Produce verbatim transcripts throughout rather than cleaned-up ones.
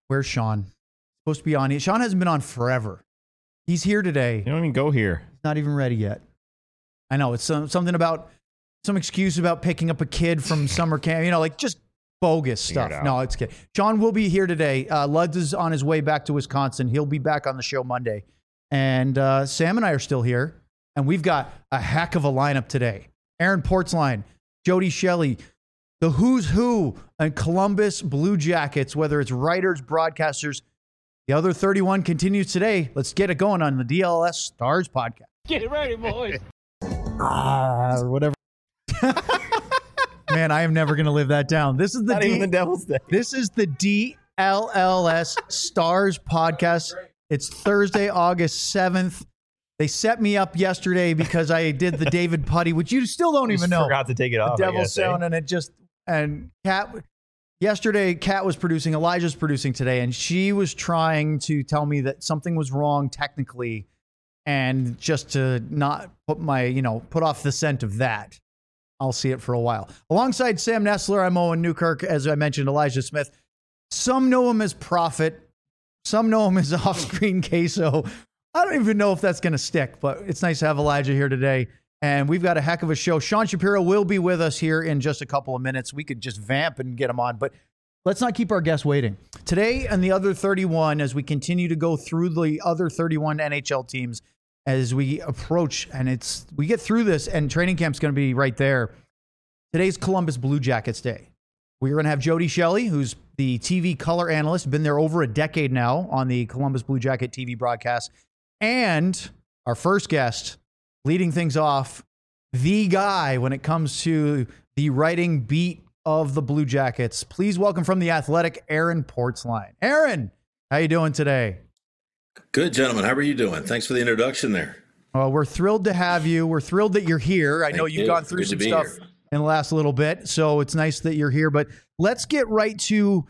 Where's Sean? Supposed to be on. Sean hasn't been on forever. He's here today. You don't even go here. He's not even ready yet. I know. It's some, something about some excuse about picking up a kid from summer camp. You know, like just bogus stuff. It no, it's good. Sean will be here today. Uh, Luds is on his way back to Wisconsin. He'll be back on the show Monday. And uh, Sam and I are still here. And we've got a heck of a lineup today. Aaron Portzline, Jody Shelley, the who's who and Columbus Blue Jackets, whether it's writers, broadcasters. The other thirty-one continues today. Let's get it going on the D L S Stars podcast. Get it ready, boys. Ah, or whatever. Man, I am never going to live that down. This is the Not D- even the Devil's Day. This is the D L L S Stars podcast. It's Thursday, August seventh. They set me up yesterday because I did the David Putty, which you still don't You even just know. Forgot to take it off. The I Devil's guess, eh? Sound, and it just and Kat. Yesterday, Kat was producing. Elijah's producing today, and she was trying to tell me that something was wrong technically, and just to not put my, you know, put off the scent of that. I'll see it for a while. Alongside Sam Nestler, I'm Owen Newkirk. As I mentioned, Elijah Smith. Some know him as Prophet. Some know him as Off-Screen Queso. I don't even know if that's going to stick, but it's nice to have Elijah here today. And we've got a heck of a show. Sean Shapiro will be with us here in just a couple of minutes. We could just vamp and get him on, but let's not keep our guests waiting. Today and the other thirty-one, as we continue to go through the other thirty-one N H L teams, as we approach, and it's we get through this, and training camp's going to be right there. Today's Columbus Blue Jackets Day. We're going to have Jody Shelley, who's the T V color analyst, been there over a decade now on the Columbus Blue Jacket T V broadcast. And our first guest, leading things off, the guy when it comes to the writing beat of the Blue Jackets. Please welcome from The Athletic, Aaron Portzline. Aaron, how you doing today? Good, gentlemen. How are you doing? Thanks for the introduction there. Well, we're thrilled to have you. We're thrilled that you're here. I Thank know you've you. gone through Good to some be stuff here. in the last little bit, so it's nice that you're here. But let's get right to,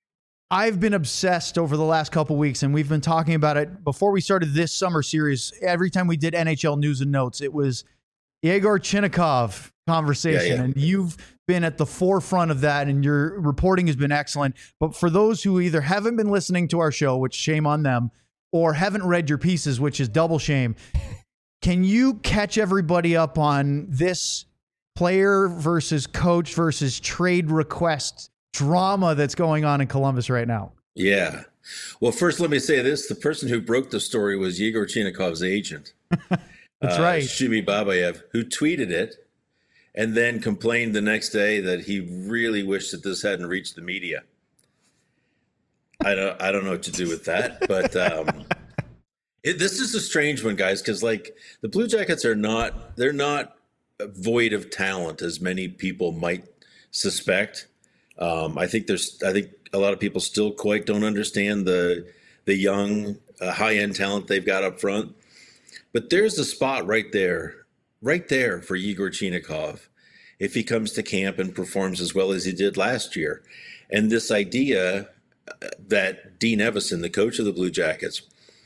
I've been obsessed over the last couple weeks, and we've been talking about it before we started this summer series. Every time we did N H L News and Notes, it was Yegor Chinakhov conversation, Yeah, yeah. and you've been at the forefront of that, and your reporting has been excellent. But for those who either haven't been listening to our show, which shame on them, or haven't read your pieces, which is double shame, can you catch everybody up on this player versus coach versus trade request drama that's going on in Columbus right now? Yeah. Well, first, let me say this. The person who broke the story was Yegor Chinakhov's agent. That's uh, right. Shumi Babayev, who tweeted it and then complained the next day that he really wished that this hadn't reached the media. I don't, I don't know what to do with that, but um, it, this is a strange one, guys, because like the Blue Jackets are not, they're not void of talent as many people might suspect. Um, I think there's, I think a lot of people still quite don't understand the the young, uh, high end talent they've got up front. But there's a spot right there, right there for Yegor Chinakhov if he comes to camp and performs as well as he did last year. And this idea that Dean Evason, the coach of the Blue Jackets,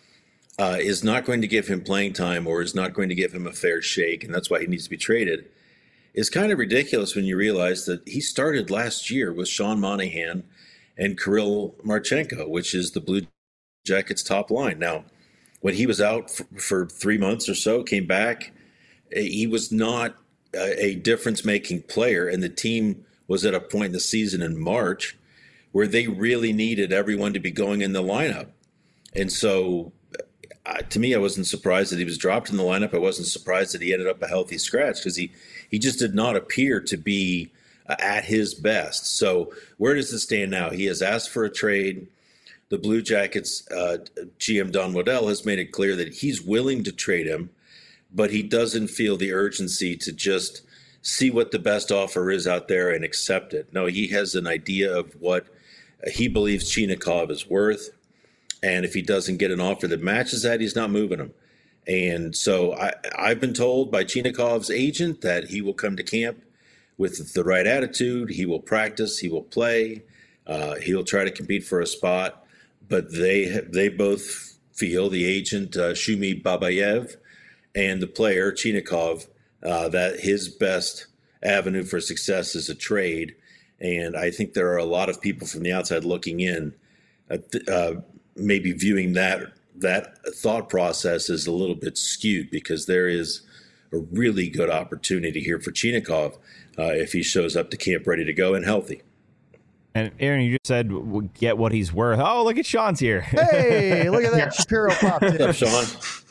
uh, is not going to give him playing time or is not going to give him a fair shake, and that's why he needs to be traded, is kind of ridiculous when you realize that he started last year with Sean Monahan and Kirill Marchenko, which is the Blue Jackets' top line. Now, when he was out for, for three months or so, came back, he was not a, a difference-making player, and the team was at a point in the season in March where they really needed everyone to be going in the lineup. And so, uh, to me, I wasn't surprised that he was dropped in the lineup. I wasn't surprised that he ended up a healthy scratch because he, he just did not appear to be uh, at his best. So where does it stand now? He has asked for a trade. The Blue Jackets uh, G M Don Waddell has made it clear that he's willing to trade him, but he doesn't feel the urgency to just see what the best offer is out there and accept it. No, he has an idea of what he believes Chinakhov is worth. And if he doesn't get an offer that matches that, he's not moving him. And so I, I've been told by Chinakhov's agent that he will come to camp with the right attitude. He will practice. He will play. Uh, he'll try to compete for a spot. But they they both feel, the agent, uh, Shumi Babayev, and the player, Chinakhov, uh, that his best avenue for success is a trade. And I think there are a lot of people from the outside looking in uh, maybe viewing that that thought process is a little bit skewed, because there is a really good opportunity here for Chinakhov uh, if he shows up to camp ready to go and healthy. And Aaron, you just said get what he's worth. Oh, look at Sean's here. Hey, look at that. Shapiro popped in. What's up, Sean?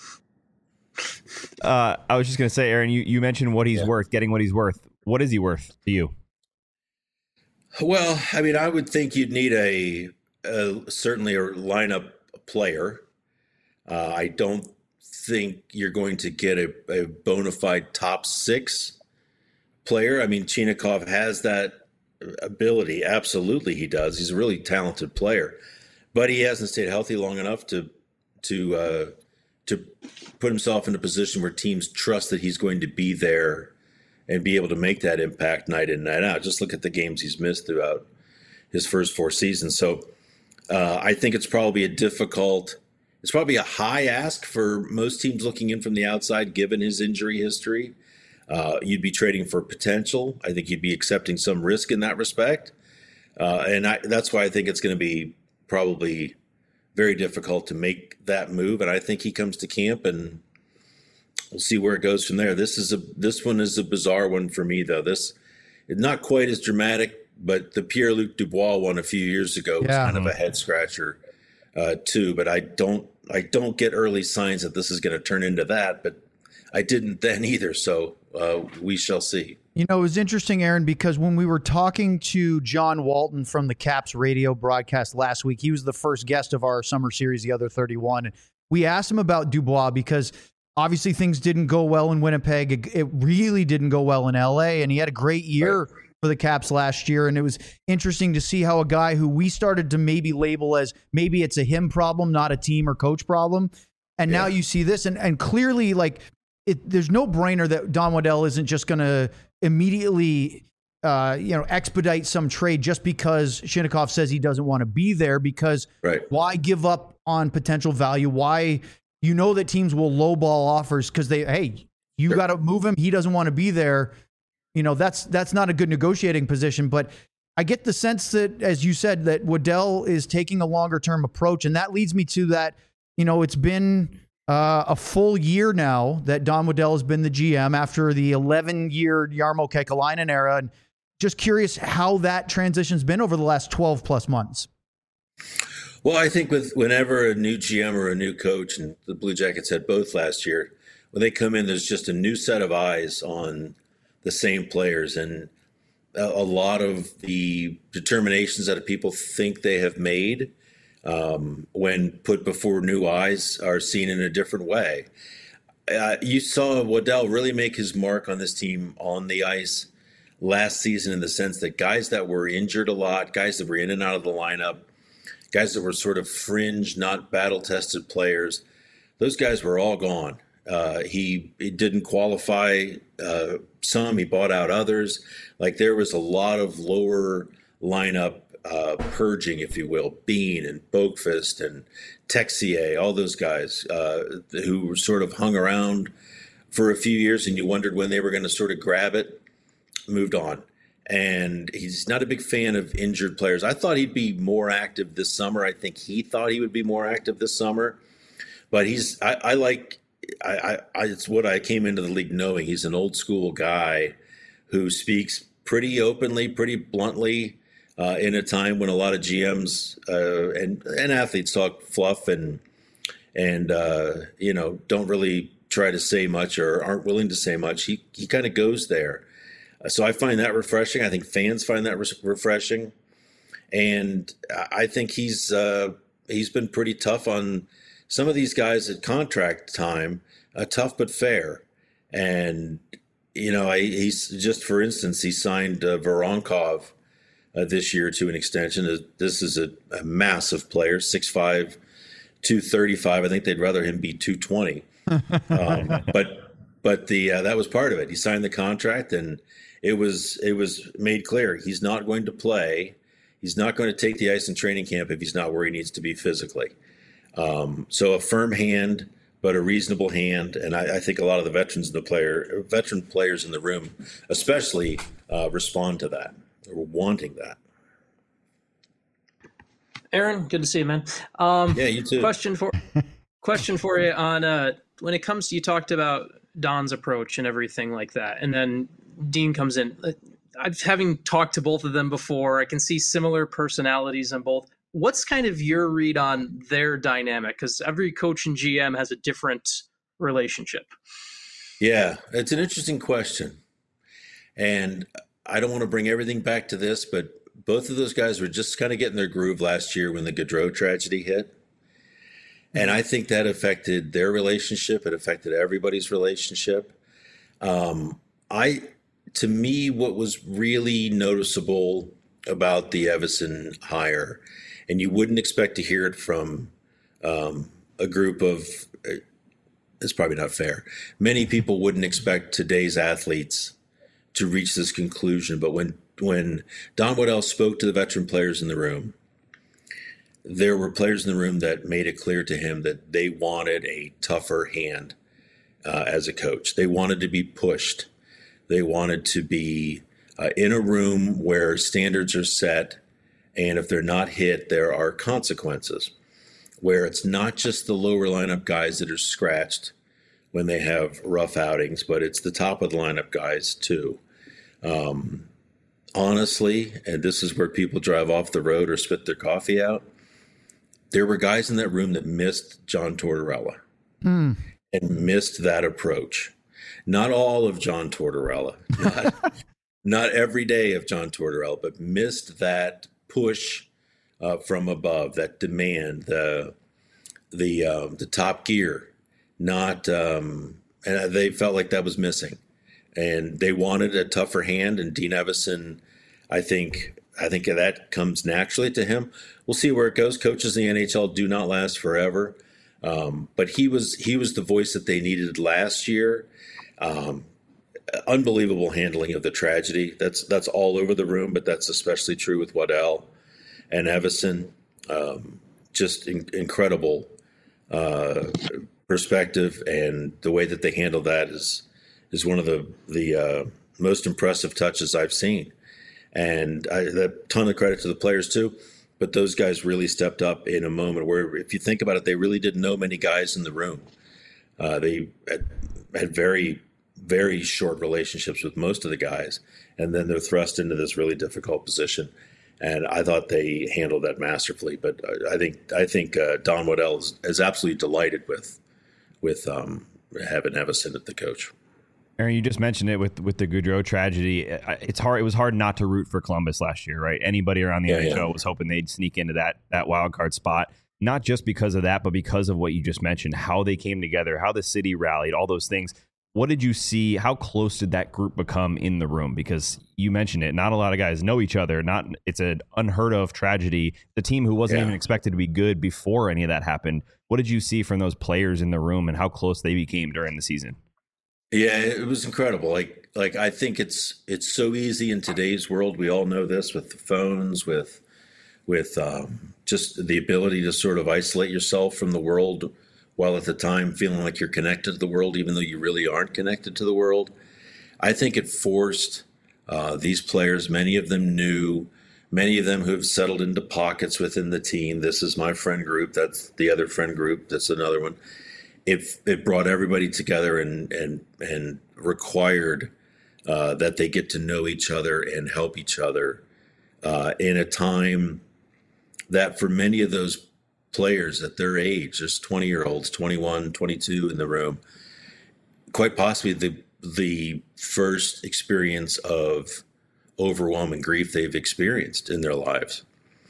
Uh, I was just going to say, Aaron, you, you mentioned what he's yeah. worth, getting what he's worth. What is he worth to you? Well, I mean, I would think you'd need a, a certainly a lineup player. Uh, I don't think you're going to get a, a bona fide top six player. I mean, Chinakhov has that ability. Absolutely, he does. He's a really talented player, but he hasn't stayed healthy long enough to to uh, to put himself in a position where teams trust that he's going to be there and be able to make that impact night in, night out. Just look at the games he's missed throughout his first four seasons. So uh, I think it's probably a difficult, it's probably a high ask for most teams looking in from the outside, given his injury history. Uh, you'd be trading for potential. I think you'd be accepting some risk in that respect. Uh, and I, that's why I think it's going to be probably very difficult to make that move. And I think he comes to camp and we'll see where it goes from there. This is a this one is a bizarre one for me, though. This is not quite as dramatic, but the Pierre-Luc Dubois one a few years ago was yeah. kind of a head scratcher uh, too. But I don't I don't get early signs that this is going to turn into that. But I didn't then either. So uh, we shall see. You know, it was interesting, Aaron, because when we were talking to John Walton from the Caps radio broadcast last week, he was the first guest of our summer series, The Other thirty-one. And we asked him about Dubois because obviously things didn't go well in Winnipeg. It, it really didn't go well in L A, and he had a great year right. for the Caps last year. And it was interesting to see how a guy who we started to maybe label as maybe it's a him problem, not a team or coach problem. And yeah. now you see this, and, and clearly, like, it, there's no brainer that Don Waddell isn't just going to immediately, uh, you know, expedite some trade just because Chinakhov says he doesn't want to be there. Because right. why give up on potential value? Why, you know, that teams will lowball offers because they, hey, you sure. got to move him. He doesn't want to be there. You know, that's that's not a good negotiating position. But I get the sense that, as you said, that Waddell is taking a longer term approach, and that leads me to that. You know, it's been Uh, a full year now that Don Waddell has been the G M after the eleven-year Jarmo Kekalainen era. And just curious how that transition's been over the last twelve plus months. Well, I think with whenever a new G M or a new coach, and the Blue Jackets had both last year, when they come in, there's just a new set of eyes on the same players. And a, a lot of the determinations that people think they have made Um, when put before new eyes are seen in a different way. Uh, you saw Waddell really make his mark on this team on the ice last season, in the sense that guys that were injured a lot, guys that were in and out of the lineup, guys that were sort of fringe, not battle-tested players, those guys were all gone. Uh, he, he didn't qualify uh, some, he bought out others. Like, there was a lot of lower lineup Uh, purging, if you will. Bean and Boakfist and Texier, all those guys uh, who sort of hung around for a few years and you wondered when they were going to sort of grab it, moved on. And he's not a big fan of injured players. I thought he'd be more active this summer. I think he thought he would be more active this summer. But he's, I, I like, I, I, it's what I came into the league knowing. He's an old school guy who speaks pretty openly, pretty bluntly, Uh, in a time when a lot of G Ms uh, and and athletes talk fluff and and uh, you know, don't really try to say much or aren't willing to say much, he he kind of goes there. Uh, so I find that refreshing. I think fans find that re- refreshing, and I think he's uh, he's been pretty tough on some of these guys at contract time. Uh, tough but fair, and you know, I, he's just, for instance, he signed uh, Voronkov Uh, this year to an extension. This is a, a massive player, six five, two thirty-five. I think they'd rather him be two twenty. Um, but but the uh, that was part of it. He signed the contract, and it was it was made clear he's not going to play. He's not going to take the ice in training camp if he's not where he needs to be physically. Um, so a firm hand, but a reasonable hand, and I, I think a lot of the veterans in the player, veteran players in the room, especially, uh, respond to that. Or wanting that. Aaron, good to see you, man. Um, yeah, you too. Question for question for you on uh, when it comes to, you talked about Don's approach and everything like that, and then Dean comes in. I've having talked to both of them before, I can see similar personalities on both. What's kind of your read on their dynamic? Because every coach and G M has a different relationship. Yeah, it's an interesting question. And I don't want to bring everything back to this, but both of those guys were just kind of getting their groove last year when the Gaudreau tragedy hit. And I think that affected their relationship. It affected everybody's relationship. Um, I, to me, what was really noticeable about the Evason hire, and you wouldn't expect to hear it from um, a group of, it's probably not fair. Many people wouldn't expect today's athletes to reach this conclusion. But when, when Don Waddell spoke to the veteran players in the room, there were players in the room that made it clear to him that they wanted a tougher hand uh, as a coach. They wanted to be pushed. They wanted to be uh, in a room where standards are set, and if they're not hit, there are consequences, where it's not just the lower lineup guys that are scratched when they have rough outings, but it's the top of the lineup guys too. Um, honestly, and this is where people drive off the road or spit their coffee out, there were guys in that room that missed John Tortorella mm. and missed that approach. Not all of John Tortorella, not, not every day of John Tortorella, but missed that push uh, from above, that demand, the the uh, the top gear. Not, um, and they felt like that was missing, and they wanted a tougher hand. And Dean Evason, I think, I think that comes naturally to him. We'll see where it goes. Coaches in the N H L do not last forever, um, but he was he was the voice that they needed last year. Um, unbelievable handling of the tragedy. That's that's all over the room, but that's especially true with Waddell and Evason. Um, just in, incredible uh, perspective, and the way that they handle that is is one of the the uh, most impressive touches I've seen. And I, a ton of credit to the players too, but those guys really stepped up in a moment where, if you think about it, they really didn't know many guys in the room. Uh, they had, had very, very short relationships with most of the guys, and then they're thrust into this really difficult position. And I thought they handled that masterfully. But I think I think uh, Don Waddell is, is absolutely delighted with with um, having Evason at the coach. Aaron, you just mentioned it with with the Gaudreau tragedy. It's hard. It was hard not to root for Columbus last year, right? Anybody around the yeah, N H L yeah. was hoping they'd sneak into that that wild card spot. Not just because of that, but because of what you just mentioned, how they came together, how the city rallied, all those things. What did you see? How close did that group become in the room? Because you mentioned it, not a lot of guys know each other. Not it's an unheard of tragedy. The team who wasn't yeah. even expected to be good before any of that happened. What did you see from those players in the room, and how close they became during the season? Yeah, it was incredible. Like, like I think it's it's so easy in today's world. We all know this with the phones, with with um, just the ability to sort of isolate yourself from the world, while at the time feeling like you're connected to the world, even though you really aren't connected to the world. I think it forced uh, these players. Many of them knew, many of them who have settled into pockets within the team. This is my friend group. That's the other friend group. That's another one. It, it brought everybody together and and and required uh, that they get to know each other and help each other uh, in a time that for many of those players at their age, there's twenty-year-olds, twenty-one, twenty-two in the room, quite possibly the the first experience of overwhelming grief they've experienced in their lives.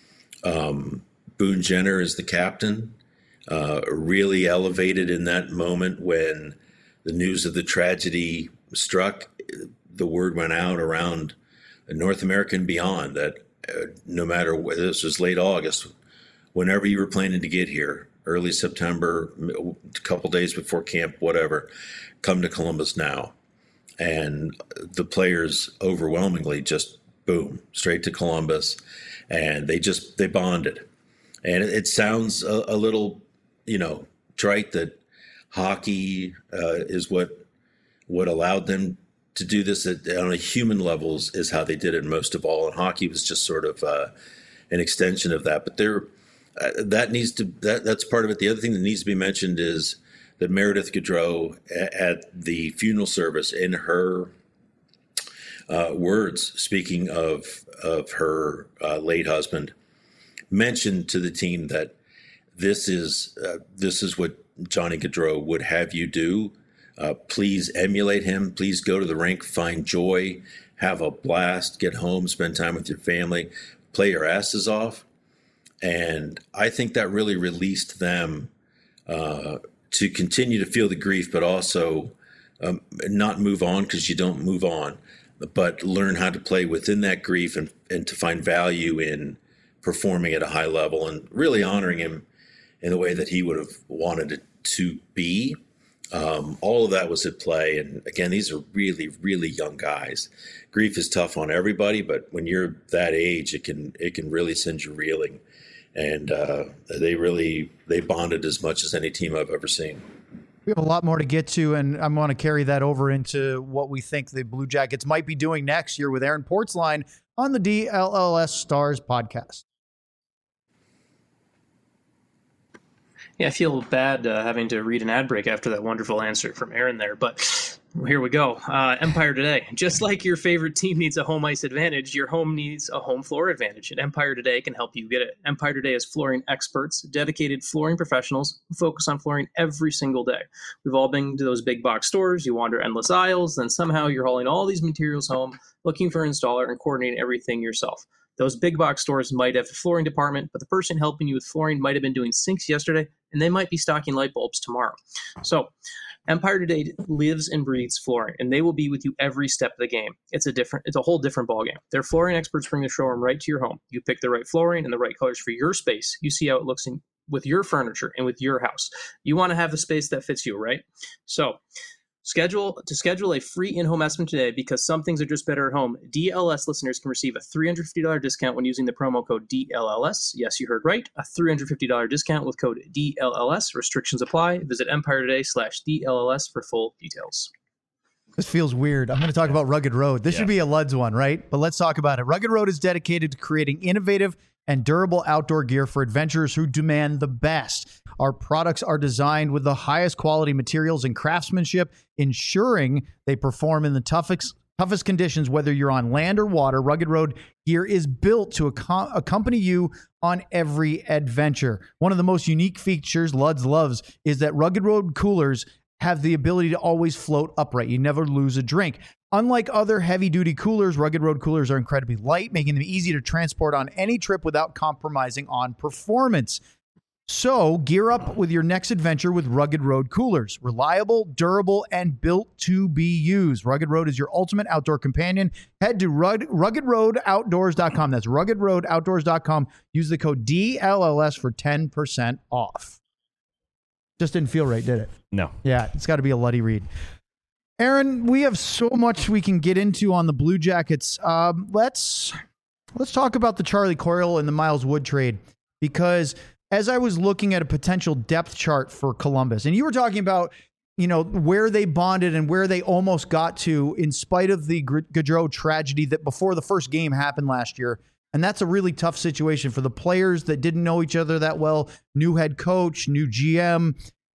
Um, Boone Jenner is the captain. Uh, really elevated in that moment when the news of the tragedy struck. The word went out around North America and beyond that uh, no matter whether this was late August, whenever you were planning to get here, early September, a couple days before camp, whatever, come to Columbus now. And the players overwhelmingly just, boom, straight to Columbus. And they just, they bonded. And it, it sounds a, a little, you know, trite that hockey uh, is what what allowed them to do this at, on a human levels is how they did it most of all. And hockey was just sort of uh, an extension of that. But there uh, that needs to that that's part of it. The other thing that needs to be mentioned is that Meredith Gaudreau at the funeral service, in her uh, words, speaking of of her uh, late husband, mentioned to the team that this is uh, this is what Johnny Gaudreau would have you do. Uh, please emulate him. Please go to the rink, find joy, have a blast, get home, spend time with your family, play your asses off. And I think that really released them uh, to continue to feel the grief, but also um, not move on, because you don't move on, but learn how to play within that grief and, and to find value in performing at a high level and really honoring him in the way that he would have wanted it to be. Um, all of that was at play. And again, these are really, really young guys. Grief is tough on everybody, but when you're that age, it can it can really send you reeling. And uh, they really they bonded as much as any team I've ever seen. We have a lot more to get to, and I want to carry that over into what we think the Blue Jackets might be doing next year with Aaron Portzline on the D L L S Stars podcast. Yeah, I feel bad uh, having to read an ad break after that wonderful answer from Aaron there, but here we go. Uh, Empire Today. Just like your favorite team needs a home ice advantage, your home needs a home floor advantage, and Empire Today can help you get it. Empire Today is flooring experts, dedicated flooring professionals who focus on flooring every single day. We've all been to those big box stores. You wander endless aisles, then somehow you're hauling all these materials home, looking for an installer and coordinating everything yourself. Those big box stores might have a flooring department, but the person helping you with flooring might have been doing sinks yesterday, and they might be stocking light bulbs tomorrow. So Empire Today lives and breathes flooring, and they will be with you every step of the game. It's a different, it's a whole different ballgame. Their flooring experts bring the showroom right to your home. You pick the right flooring and the right colors for your space. You see how it looks in, with your furniture and with your house. You want to have a space that fits you, right? So Schedule to schedule a free in-home estimate today, because some things are just better at home. D L S listeners can receive a three hundred fifty dollars discount when using the promo code D L L S. Yes, you heard right. A three hundred fifty dollars discount with code D L L S. Restrictions apply. Visit Empire Today slash D L L S for full details. This feels weird. I'm going to talk about Rugged Road. This yeah. should be a Luds one, right? But let's talk about it. Rugged Road is dedicated to creating innovative and durable outdoor gear for adventurers who demand the best. Our products are designed with the highest quality materials and craftsmanship, ensuring they perform in the toughest toughest conditions, whether you're on land or water. Rugged Road gear is built to ac- accompany you on every adventure. One of the most unique features Luds loves is that Rugged Road coolers have the ability to always float upright. You never lose a drink. Unlike other heavy-duty coolers, Rugged Road coolers are incredibly light, making them easy to transport on any trip without compromising on performance. So gear up with your next adventure with Rugged Road coolers. Reliable, durable, and built to be used. Rugged Road is your ultimate outdoor companion. Head to rugged road outdoors dot com. That's rugged road outdoors dot com. Use the code D L L S for ten percent off. Just didn't feel right, did it? No. Yeah, it's got to be a Luddy read. Aaron, we have so much we can get into on the Blue Jackets. Um, let's let's talk about the Charlie Coyle and the Miles Wood trade, because as I was looking at a potential depth chart for Columbus, and you were talking about, you know, where they bonded and where they almost got to in spite of the Gaudreau tragedy that before the first game happened last year. And that's a really tough situation for the players that didn't know each other that well, new head coach, new G M.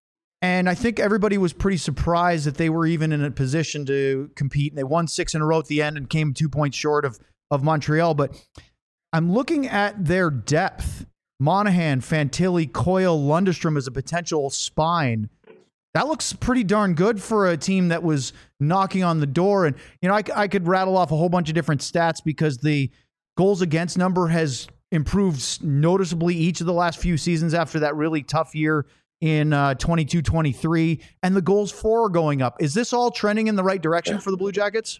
And I think everybody was pretty surprised that they were even in a position to compete. And they won six in a row at the end and came two points short of, of Montreal. But I'm looking at their depth. Monahan, Fantilli, Coyle, Lundestrom as a potential spine. That looks pretty darn good for a team that was knocking on the door. And, you know, I, I could rattle off a whole bunch of different stats because the goals against number has improved noticeably each of the last few seasons after that really tough year in uh, twenty-two twenty-three. And the goals for are going up. Is this all trending in the right direction for the Blue Jackets?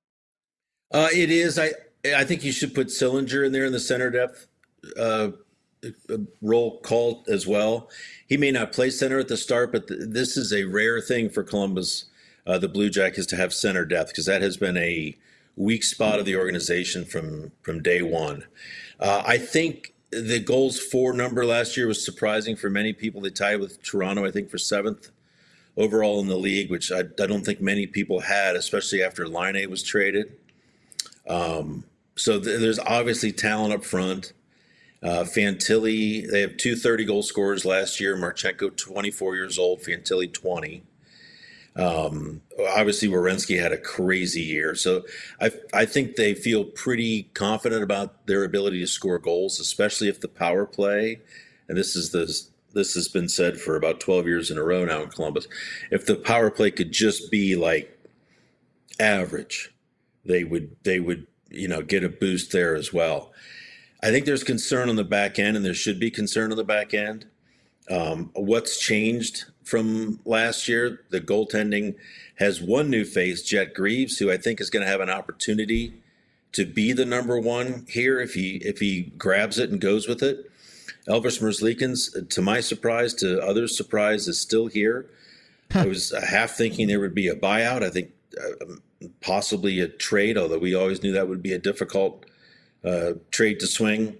Uh, it is. I I think you should put Sillinger in there in the center depth uh role call as well. He may not play center at the start, but th- this is a rare thing for Columbus, uh, the Blue Jackets, to have center depth, because that has been a weak spot of the organization from from day one. Uh, I think the goals for number last year was surprising for many people. They tied with Toronto, I think, for seventh overall in the league, which I, I don't think many people had, especially after Laine was traded. Um, so th- there's obviously talent up front. Uh, Fantilli, they have two thirty-goal scorers last year. Marchenko, twenty-four years old. Fantilli, twenty. Um, obviously, Werenski had a crazy year. So I, I think they feel pretty confident about their ability to score goals, especially if the power play, and this is the this has been said for about twelve years in a row now in Columbus, if the power play could just be like average, they would they would you know get a boost there as well. I think there's concern on the back end, and there should be concern on the back end. Um, what's changed from last year? The goaltending has one new face, Jet Greaves, who I think is going to have an opportunity to be the number one here if he if he grabs it and goes with it. Elvis Merzlikins, to my surprise, to others' surprise, is still here. I was half thinking there would be a buyout. I think uh, possibly a trade, although we always knew that would be a difficult uh, trade to swing.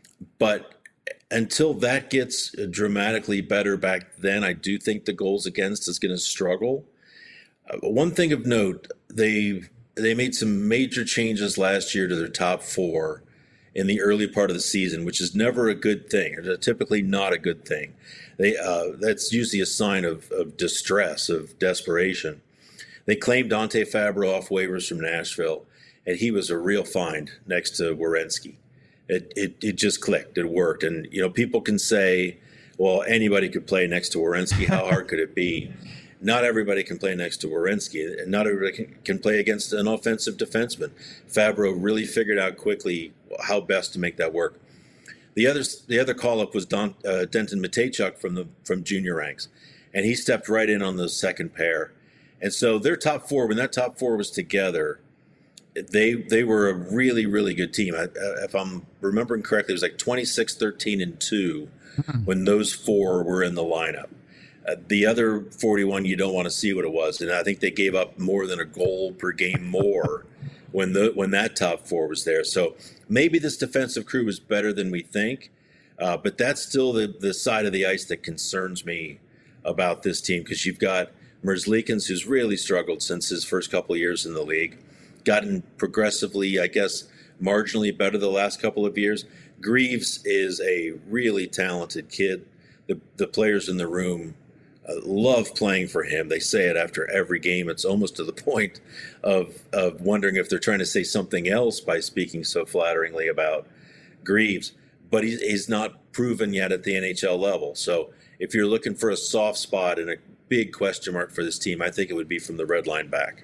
But until that gets dramatically better back then, I do think the goals against is going to struggle. Uh, one thing of note, they they made some major changes last year to their top four in the early part of the season, which is never a good thing, or typically not a good thing. They uh, that's usually a sign of, of distress, of desperation. They claimed Dante Fabro off waivers from Nashville, and he was a real find next to Werenski. It, it it just clicked. It worked. And, you know, people can say, well, anybody could play next to Werenski. How hard could it be? Not everybody can play next to Werenski, and not everybody can, can play against an offensive defenseman. Fabro really figured out quickly how best to make that work. The other the other call-up was Don, uh, Denton Matejchuk from the from junior ranks, and he stepped right in on the second pair. And so their top four, when that top four was together, they they were a really, really good team. I, if I'm remembering correctly, it was like twenty-six, thirteen, and two when those four were in the lineup. Uh, the other forty-one, you don't want to see what it was. And I think they gave up more than a goal per game more when the when that top four was there. So maybe this defensive crew was better than we think. Uh, but that's still the, the side of the ice that concerns me about this team, because you've got Merzlikins, who's really struggled since his first couple of years in the league, gotten progressively, I guess, marginally better the last couple of years. Greaves is a really talented kid. The the players in the room uh, love playing for him. They say it after every game. It's almost to the point of of wondering if they're trying to say something else by speaking so flatteringly about Greaves. But he's, he's not proven yet at the N H L level. So if you're looking for a soft spot and a big question mark for this team, I think it would be from the red line back.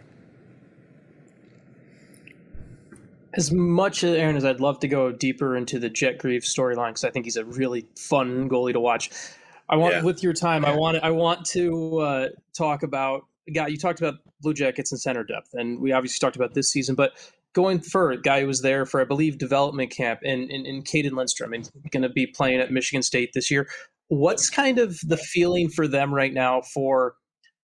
As much, Aaron, as I'd love to go deeper into the Jet Greaves storyline, because I think he's a really fun goalie to watch, I want, yeah. with your time, yeah. I want I want to uh, talk about, guy, you talked about Blue Jackets and center depth, and we obviously talked about this season, but going for guy who was there for, I believe, development camp, and in, in, in Caden Lindstrom, and going to be playing at Michigan State this year. What's kind of the feeling for them right now for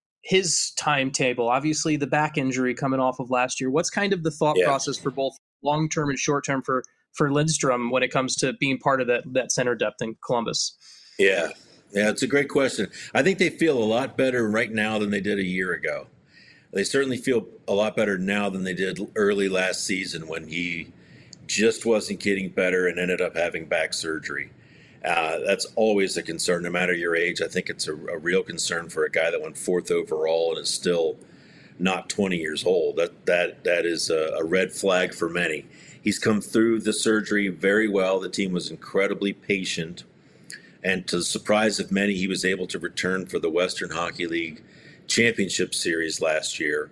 his timetable? Obviously, the back injury coming off of last year. What's kind of the thought yeah. process for both long-term and short-term for, for Lindstrom when it comes to being part of that, that center depth in Columbus? Yeah. Yeah, it's a great question. I think they feel a lot better right now than they did a year ago. They certainly feel a lot better now than they did early last season when he just wasn't getting better and ended up having back surgery. Uh, that's always a concern, no matter your age. I think it's a, a real concern for a guy that went fourth overall and is still not twenty years old. That that that is a, a red flag for many. He's come through the surgery very well. The team was incredibly patient, and to the surprise of many, he was able to return for the Western Hockey League Championship Series last year,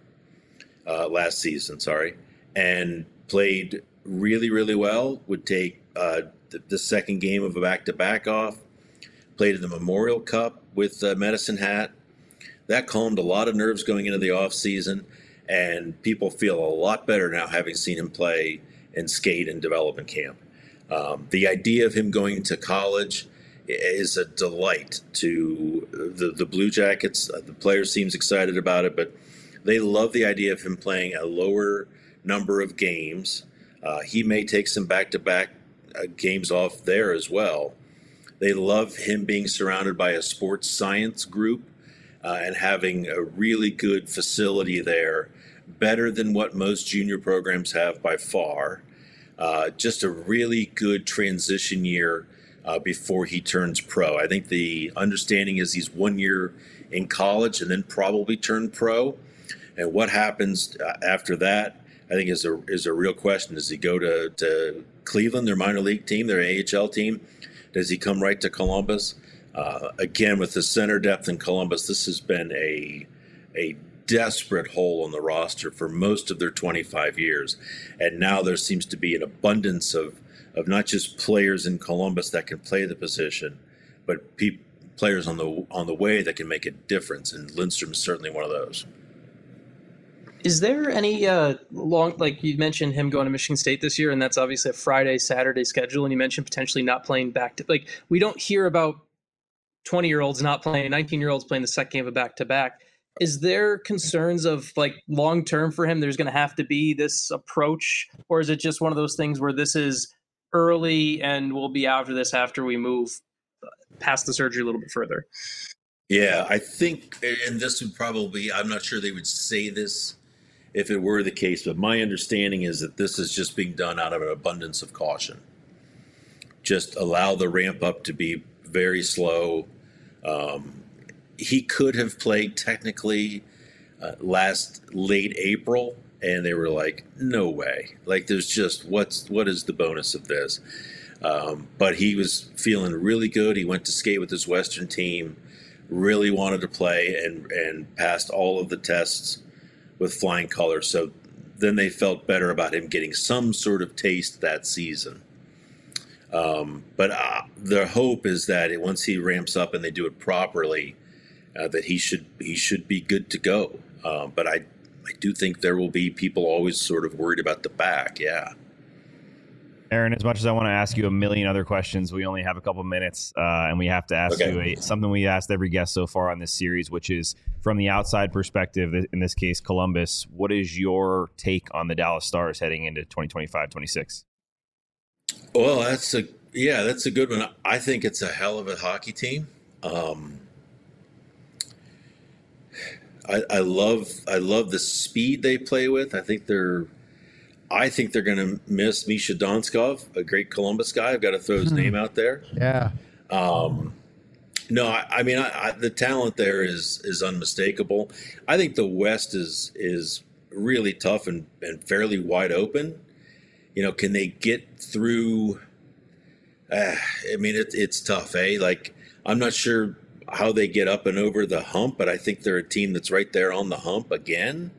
uh, last season, sorry, and played really, really well. Would take uh, the, the second game of a back-to-back off. Played in the Memorial Cup with uh, Medicine Hat. That calmed a lot of nerves going into the offseason, and people feel a lot better now having seen him play and skate in development camp. Um, the idea of him going to college is a delight to the, the Blue Jackets. Uh, the players seems excited about it, but they love the idea of him playing a lower number of games. Uh, he may take some back-to-back uh, games off there as well. They love him being surrounded by a sports science group uh, and having a really good facility there, better than what most junior programs have by far. Uh, just a really good transition year uh, before he turns pro. I think the understanding is he's one year in college and then probably turn pro. And what happens uh, after that, I think is a is a real question. Does he go to, to Cleveland, their minor league team, their A H L team? Does he come right to Columbus? Uh, again, with the center depth in Columbus, this has been a a desperate hole in the roster for most of their twenty-five years. And now there seems to be an abundance of, of not just players in Columbus that can play the position, but pe- players on the on the way that can make a difference. And Lindstrom is certainly one of those. Is there any uh, long, like you mentioned him going to Michigan State this year, and that's obviously a Friday, Saturday schedule, and you mentioned potentially not playing back to, like, we don't hear about twenty-year-olds not playing, nineteen-year-olds playing the second game of back-to-back. Is there concerns of, like, long-term for him, there's going to have to be this approach, or is it just one of those things where this is early and we'll be after this after we move past the surgery a little bit further? Yeah, I think, and this would probably, I'm not sure they would say this if it were the case, but my understanding is that this is just being done out of an abundance of caution. Just allow the ramp up to be very slow. Um, he could have played technically uh, last late April, and they were like, no way. Like, there's just, what's what is the bonus of this? Um, but he was feeling really good. He went to skate with his Western team, really wanted to play, and, and passed all of the tests with flying colors. So then they felt better about him getting some sort of taste that season. Um, but uh, the hope is that it, once he ramps up and they do it properly, uh, that he should he should be good to go. Uh, but I I do think there will be people always sort of worried about the back. Yeah. Aaron, as much as I want to ask you a million other questions, we only have a couple minutes, uh, and we have to ask okay. you a, something we asked every guest so far on this series, which is from the outside perspective, in this case, Columbus, what is your take on the Dallas Stars heading into twenty twenty-five twenty-six? Well, that's a yeah, that's a good one. I think it's a hell of a hockey team. Um, I, I love I love the speed they play with. I think they're I think they're going to miss Misha Donskov, a great Columbus guy. I've got to throw his name out there. Yeah. Um, no, I, I mean I, I, the talent there is is unmistakable. I think the West is is really tough and, and fairly wide open. You know, can they get through? Uh, I mean, it, it's tough, eh? Like, I'm not sure how they get up and over the hump, but I think they're a team that's right there on the hump again.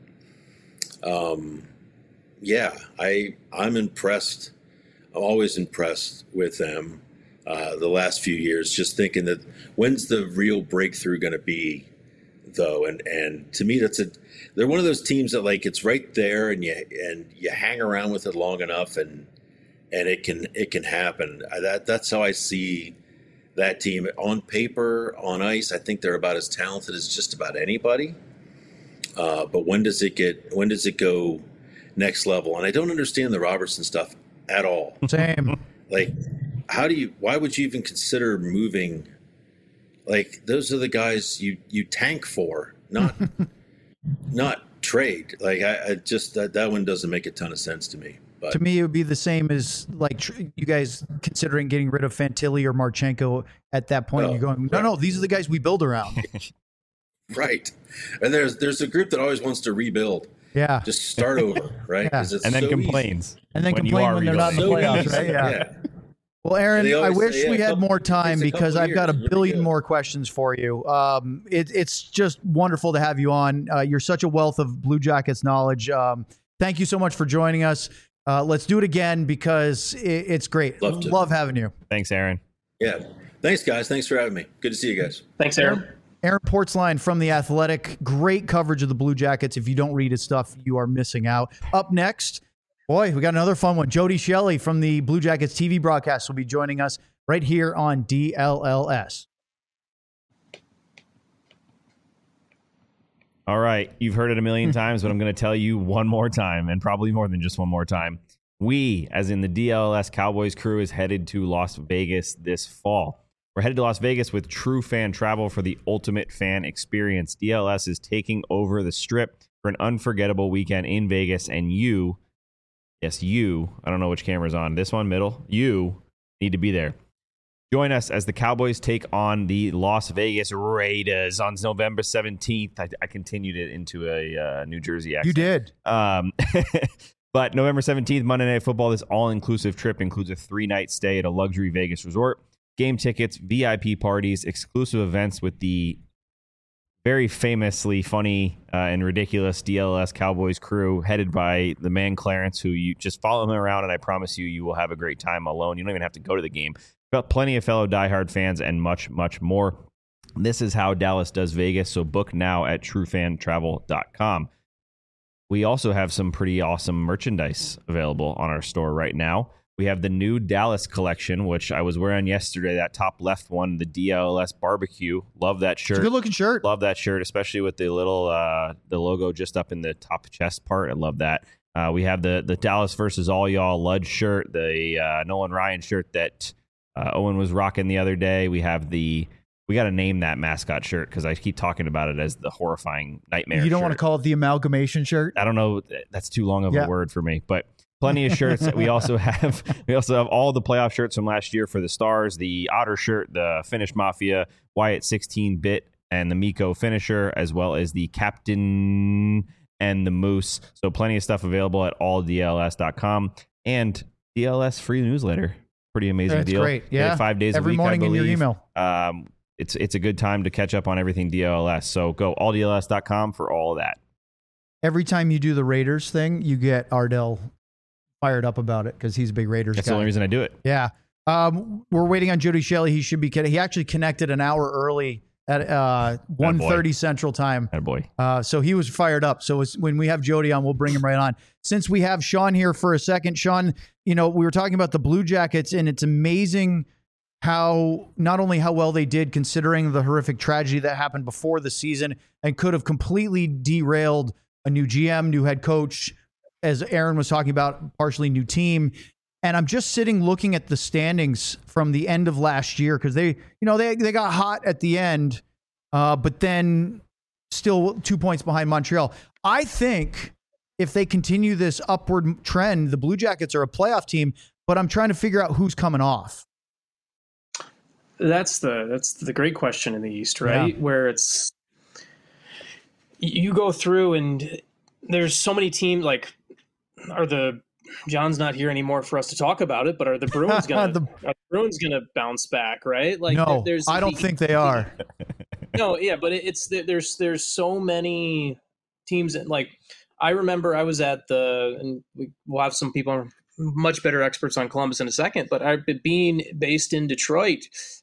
Um, yeah, I I'm impressed. I'm always impressed with them. Uh, the last few years, just thinking that when's the real breakthrough going to be, though? And and to me, that's a they're one of those teams that, like, it's right there, and you and you hang around with it long enough, and and it can it can happen. That that's how I see that team on paper, on ice. I think they're about as talented as just about anybody. Uh, but when does it get? When does it go next level? And I don't understand the Robertson stuff at all. Same. Like, how do you? Why would you even consider moving? Like, those are the guys you you tank for, not not trade. Like, I, I just that that one doesn't make a ton of sense to me. But to me, it would be the same as, like, tr- you guys considering getting rid of Fantilli or Marchenko at that point. No, You're going, no, right. no, these are the guys we build around. right, and there's there's a group that always wants to rebuild. Yeah. Just start over, right? Yeah. 'Cause it's And then so complains. easy. And then when you complain are when they're not in the So playoffs, easy. right? Yeah. yeah. Well, Aaron, They I always wish say, yeah, we a had couple- more it time takes a because couple I've got a years. Really billion good. more questions for you. Um, it, it's just wonderful to have you on. Uh, you're such a wealth of Blue Jackets knowledge. Um, thank you so much for joining us. Uh, let's do it again because it, it's great. Love to. Love having you. Thanks, Aaron. Yeah. Thanks, guys. Thanks for having me. Good to see you guys. Thanks, Aaron. Aaron Portzline from The Athletic. Great coverage of the Blue Jackets. If you don't read his stuff, you are missing out. Up next, boy, we got another fun one. Jody Shelley from the Blue Jackets T V broadcast will be joining us right here on D L L S. All right. You've heard it a million times, but I'm going to tell you one more time, and probably more than just one more time. We, as in the D L L S Cowboys crew, is headed to Las Vegas this fall. We're headed to Las Vegas with True Fan Travel for the ultimate fan experience. D L S is taking over the Strip for an unforgettable weekend in Vegas, and you Yes, you. I don't know which camera's on. This one, middle. You need to be there. Join us as the Cowboys take on the Las Vegas Raiders on November seventeenth. I, I continued it into a uh, New Jersey accent. You did. Um, but November seventeenth, Monday Night Football, this all-inclusive trip includes a three-night stay at a luxury Vegas resort, game tickets, V I P parties, exclusive events with the very famously funny uh, and ridiculous D L S Cowboys crew headed by the man Clarence, who you just follow him around, and I promise you, you will have a great time alone. You don't even have to go to the game. Got plenty of fellow diehard fans and much, much more. This is how Dallas does Vegas, so book now at true fan travel dot com. We also have some pretty awesome merchandise available on our store right now. We have the new Dallas collection, which I was wearing yesterday, that top left one, the D L S barbecue. Love that shirt. It's a good looking shirt. Love that shirt, especially with the little uh, the logo just up in the top chest part. I love that. Uh, we have the the Dallas versus all y'all Ludge shirt, the uh, Nolan Ryan shirt that uh, Owen was rocking the other day. We have the we got to name that mascot shirt because I keep talking about it as the horrifying nightmare. You don't shirt. want to call it the amalgamation shirt? I don't know. That's too long of Yeah. a word for me, but. Plenty of shirts. We also have we also have all the playoff shirts from last year for the Stars, the Otter shirt, the Finnish Mafia, Wyatt sixteen bit, and the Miko finisher, as well as the Captain and the Moose. So plenty of stuff available at all D L S dot com and D L S free newsletter. Pretty amazing That's deal. great. Get it Yeah. five days Every a week, morning I in believe. your email. Um, it's it's a good time to catch up on everything D L S. So go all D L S dot com for all of that. Every time you do the Raiders thing, you get Ardell fired up about it because he's a big Raiders That's guy. the only reason I do it. Yeah. Um, we're waiting on Jody Shelley. He should be kidding. He actually connected an hour early at uh, one thirty Central Time. Attaboy. Uh, so he was fired up. So it's, when we have Jody on, we'll bring him right on. Since we have Sean here for a second, Sean, you know, we were talking about the Blue Jackets, and it's amazing how not only how well they did considering the horrific tragedy that happened before the season and could have completely derailed a new G M, new head coach, as Aaron was talking about, partially new team. And I'm just sitting looking at the standings from the end of last year because they, you know, they they got hot at the end, uh, but then still two points behind Montreal. I think if they continue this upward trend, the Blue Jackets are a playoff team, but I'm trying to figure out who's coming off. That's the that's the great question in the East, right? Yeah. Where it's you go through and there's so many teams. Like, are the John's not here anymore for us to talk about it, but are the Bruins gonna The- are the Bruins gonna bounce back? Right? Like, no, there's I don't the- think they are. No, yeah, but it, it's there's there's so many teams that, like, I remember I was at the, and we, we'll have some people much better experts on Columbus in a second, but I've been being based in Detroit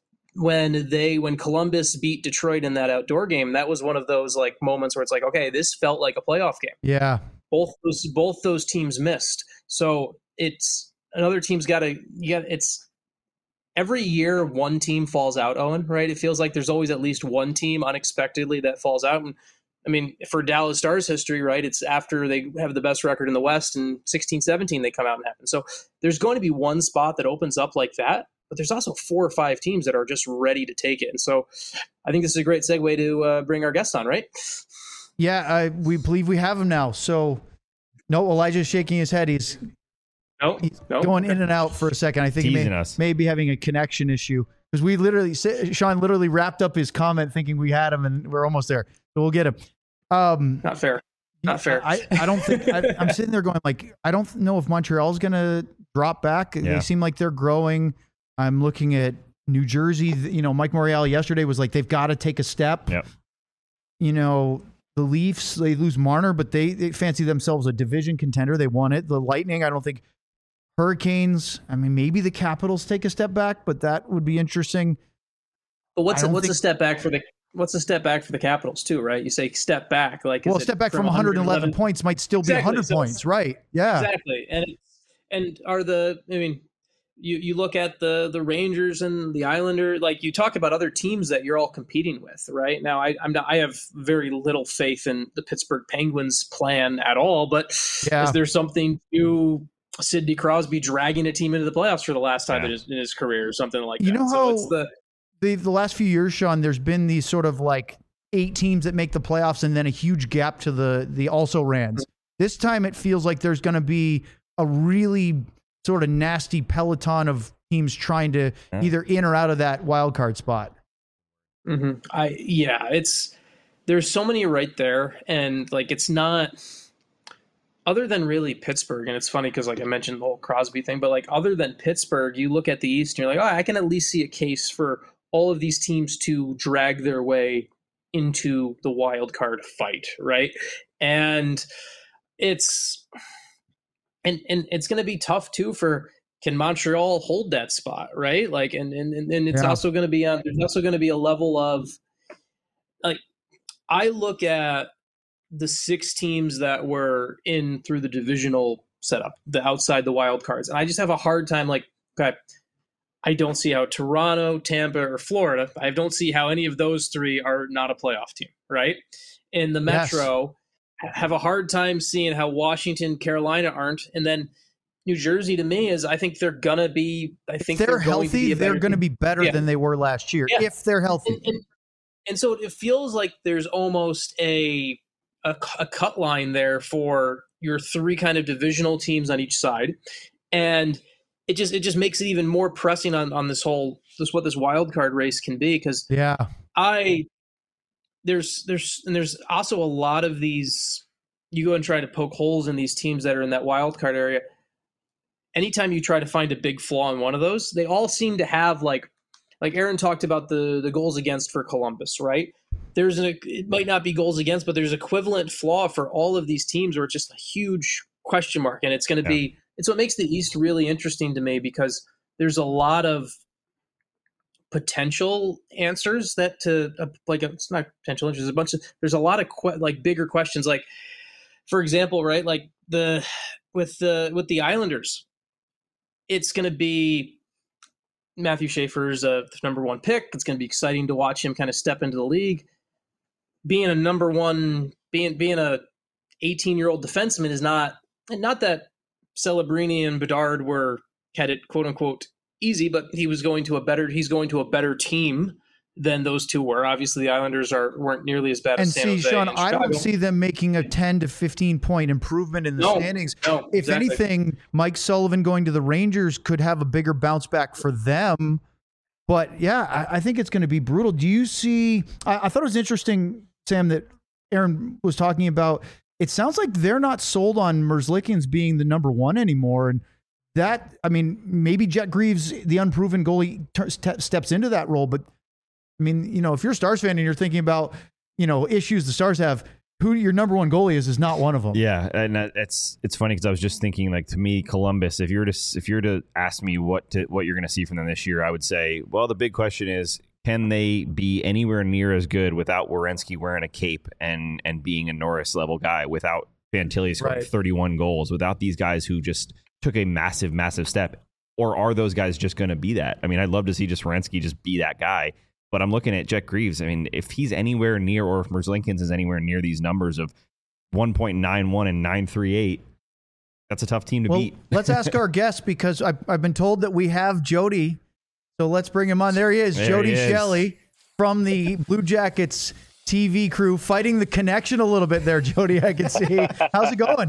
when they when Columbus beat Detroit in that outdoor game. That was one of those like moments where it's like, okay, this felt like a playoff game. Yeah. Both those both those teams missed. So it's another team's got to yeah, it's every year one team falls out, Owen, right? It feels like there's always at least one team unexpectedly that falls out. And I mean, for Dallas Stars history, right, it's after they have the best record in the West in sixteen seventeen, they come out and happen. So there's going to be one spot that opens up like that, but there's also four or five teams that are just ready to take it. And so I think this is a great segue to uh, bring our guest on, right? Yeah, I, we believe we have him now. So, no, Elijah's shaking his head. He's No, He's no. going in and out for a second. I think he Teasing may, us. may be having a connection issue because we literally, Sean literally wrapped up his comment thinking we had him and we're almost there. So we'll get him. Um, Not fair. Not fair. I, I don't think, I, I'm sitting there going like, I don't know if Montreal's going to drop back. Yeah. They seem like they're growing. I'm looking at New Jersey. You know, Mike Morreale yesterday was like, they've got to take a step. Yep. You know, the Leafs, they lose Marner, but they, they fancy themselves a division contender. They won it. The Lightning, I don't think. Hurricanes, I mean, maybe the Capitals take a step back, but that would be interesting. But what's I a, don't what's a think- step back for the what's a step back for the Capitals too, right? You say step back, like is Well, it step back from one hundred eleven points might still be Exactly, one hundred so it's- points, right? Yeah. Exactly, and it's, and are the I mean, you you look at the the Rangers and the Islanders, like you talk about other teams that you're all competing with, right? Now, I I'm not, I have very little faith in the Pittsburgh Penguins plan at all, but Yeah. is there something to Sidney Crosby dragging a team into the playoffs for the last time Yeah. in, his, in his career or something like You that? know so how- it's the The, the last few years, Sean, there's been these sort of like eight teams that make the playoffs and then a huge gap to the, the also rans. This time it feels like there's going to be a really sort of nasty peloton of teams trying to Yeah. either in or out of that wild card spot. Mm-hmm. I yeah, it's there's so many right there, and like it's not other than really Pittsburgh. And it's funny because like I mentioned the whole Crosby thing, but like other than Pittsburgh, you look at the East and you're like, oh, I can at least see a case for all of these teams to drag their way into the wild card fight, right? And it's and and it's going to be tough too for can Montreal hold that spot, right? Like, and and and it's Yeah. also going to be on. There's also going to be a level of like I look at the six teams that were in through the divisional setup, the outside the wild cards, and I just have a hard time. Like, okay, I don't see how Toronto, Tampa, or Florida. I don't see how any of those three are not a playoff team, right? In the Metro, yes. have a hard time seeing how Washington, Carolina aren't, and then New Jersey to me is I think they're gonna be. I think if they're, they're going healthy, to be they're going to be better yeah. than they were last year yeah. if they're healthy. And, and, and so it feels like there's almost a, a a cut line there for your three kind of divisional teams on each side, and it just it just makes it even more pressing on on this whole this what this wild card race can be because yeah I there's there's and there's also a lot of these you go and try to poke holes in these teams that are in that wild card area. Anytime you try to find a big flaw in one of those, they all seem to have like, like Aaron talked about the the goals against for Columbus, right? There's an it might not be goals against, but there's equivalent flaw for all of these teams where it's just a huge question mark, and it's going to yeah. be. It's what makes the East really interesting to me because there's a lot of potential answers that to uh, like it's not potential answers. There's a bunch of there's a lot of que- like bigger questions, like for example, right? Like the with the with the Islanders. It's going to be Matthew Schaefer's uh, number one pick. It's going to be exciting to watch him kind of step into the league. Being a number one, being being a eighteen-year-old defenseman is not, and not that Celebrini and Bedard were had it quote unquote easy, but he was going to a better. He's going to a better team than those two were. Obviously, the Islanders are weren't nearly as bad and as San see, Jose Sean, and I Chicago. don't see them making a ten to fifteen point improvement in the No, standings. no, if exactly. anything, Mike Sullivan going to the Rangers could have a bigger bounce back for them. But yeah, I, I think it's going to be brutal. Do you see? I, I thought it was interesting, Sam, that Aaron was talking about. It sounds like they're not sold on Merzlikins being the number one anymore, and that I mean, maybe Jet Greaves, the unproven goalie, t- st- steps into that role, but. I mean, you know, if you're a Stars fan and you're thinking about, you know, issues the Stars have, who your number one goalie is is not one of them. Yeah, and it's it's funny because I was just thinking, like, to me, Columbus. If you're to if you're to ask me what to, what you're going to see from them this year, I would say, well, the big question is, can they be anywhere near as good without Werenski wearing a cape and and being a Norris level guy, without Fantilli scoring Right. thirty-one goals, without these guys who just took a massive, massive step, or are those guys just going to be that? I mean, I'd love to see just Werenski just be that guy. But I'm looking at Jet Greaves. I mean, if he's anywhere near, or if Merzlikins is anywhere near these numbers of one point nine one and nine thirty-eight, that's a tough team to Well, beat. let's ask our guest because I've, I've been told that we have Jody. So let's bring him on. There he is, There Jody he is. Shelley from the Blue Jackets T V crew, fighting the connection a little bit there, Jody, I can see. How's it going?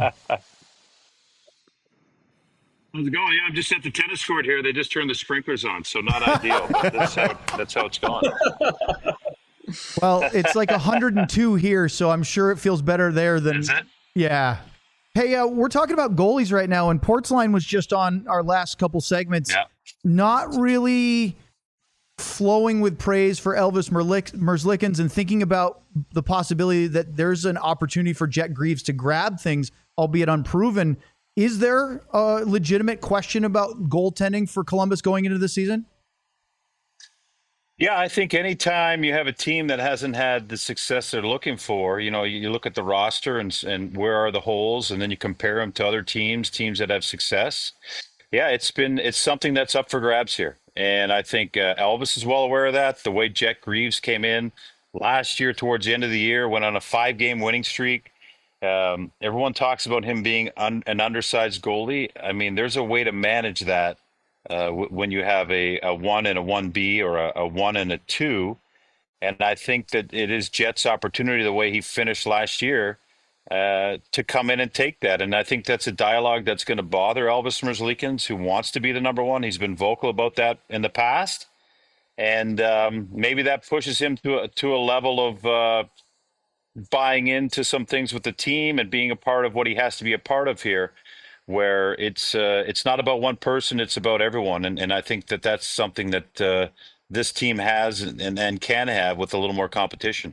How's it going? Yeah, I'm just at the tennis court here. They just turned the sprinklers on, so not ideal. But that's how that's how it's going. Well, it's like one hundred two here, so I'm sure it feels better there than. Is it? Yeah. Hey, uh, we're talking about goalies right now, and Portsline was just on our last couple segments. Yeah. Not really flowing with praise for Elvis Merlik- Merzlikins and thinking about the possibility that there's an opportunity for Jet Greaves to grab things, albeit unproven. Is there a legitimate question about goaltending for Columbus going into the season? Yeah, I think anytime you have a team that hasn't had the success they're looking for, you know, you, you look at the roster and and where are the holes, and then you compare them to other teams, teams that have success. Yeah, it's been it's something that's up for grabs here, and I think uh, Elvis is well aware of that. The way Jet Greaves came in last year towards the end of the year, went on a five-game winning streak. Um, everyone talks about him being un, an undersized goalie. I mean, there's a way to manage that uh, w- when you have a, a one and a one B or a, a one and a two. And I think that it is Jet's opportunity, the way he finished last year, uh, to come in and take that. And I think that's a dialogue that's going to bother Elvis Merzlikins, who wants to be the number one. He's been vocal about that in the past. And um, maybe that pushes him to a, to a level of uh, buying into some things with the team and being a part of what he has to be a part of here, where it's uh, it's not about one person, it's about everyone. And, and I think that that's something that uh, this team has and, and can have with a little more competition.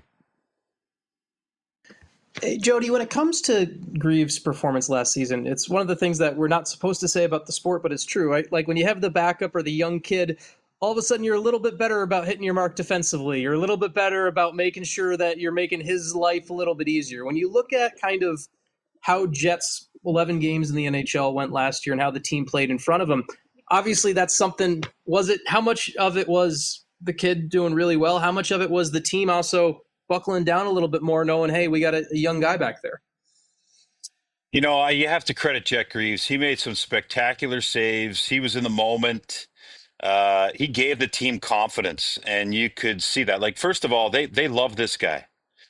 Hey, Jody, when it comes to Greaves' performance last season, it's one of the things that we're not supposed to say about the sport, but it's true, right? Like when you have the backup or the young kid, all of a sudden you're a little bit better about hitting your mark defensively. You're a little bit better about making sure that you're making his life a little bit easier. When you look at kind of how Jets' eleven games in the N H L went last year and how the team played in front of them, obviously that's something, was it, how much of it was the kid doing really well? How much of it was the team also buckling down a little bit more, knowing, hey, we got a, a young guy back there? You know, I, you have to credit Jet Greaves. He made some spectacular saves. He was in the moment. Uh, he gave the team confidence, and you could see that. Like, first of all, they they love this guy.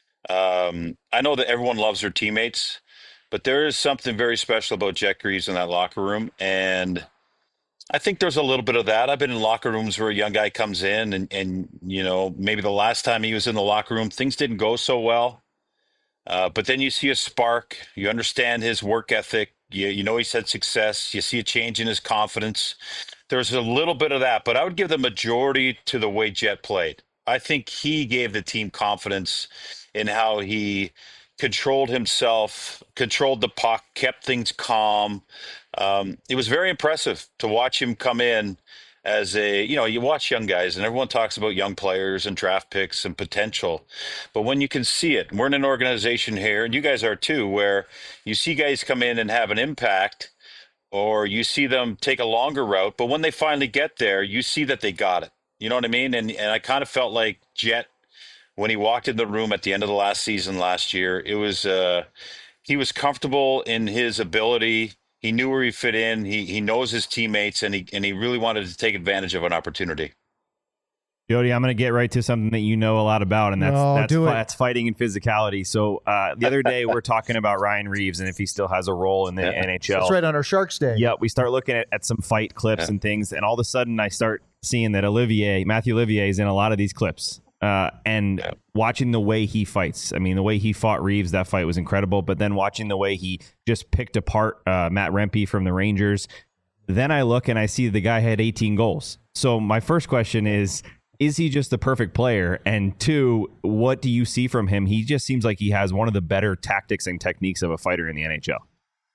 Um, I know that everyone loves their teammates, but there is something very special about Jet Greaves in that locker room, and I think there's a little bit of that. I've been in locker rooms where a young guy comes in, and and you know, maybe the last time he was in the locker room, things didn't go so well. Uh, but then you see a spark. You understand his work ethic. You, you know he's had success. You see a change in his confidence. There's a little bit of that, but I would give the majority to the way Jet played. I think he gave the team confidence in how he controlled himself, controlled the puck, kept things calm. Um, it was very impressive to watch him come in as a, you know, you watch young guys and everyone talks about young players and draft picks and potential. But when you can see it, we're in an organization here, and you guys are too, where you see guys come in and have an impact, or you see them take a longer route. But when they finally get there, you see that they got it. You know what I mean? And and I kind of felt like Jet, when he walked in the room at the end of the last season last year, it was uh, he was comfortable in his ability. He knew where he fit in. He he knows his teammates, and he and he really wanted to take advantage of an opportunity. Jody, I'm going to get right to something that you know a lot about, and that's No, that's, do fi- it. that's fighting and physicality. So uh, the other day, we're talking about Ryan Reeves and if he still has a role in the Yeah. N H L. That's right on our Sharks Day. Yeah, we start looking at, at some fight clips Yeah. and things, and all of a sudden, I start seeing that Olivier, Matthew Olivier, is in a lot of these clips. Uh, and Yeah. watching the way he fights. I mean, the way he fought Reeves, that fight was incredible. But then watching the way he just picked apart uh, Matt Rempe from the Rangers, then I look and I see the guy had eighteen goals. So my first question is, is he just the perfect player? And two, what do you see from him? He just seems like he has one of the better tactics and techniques of a fighter in the N H L.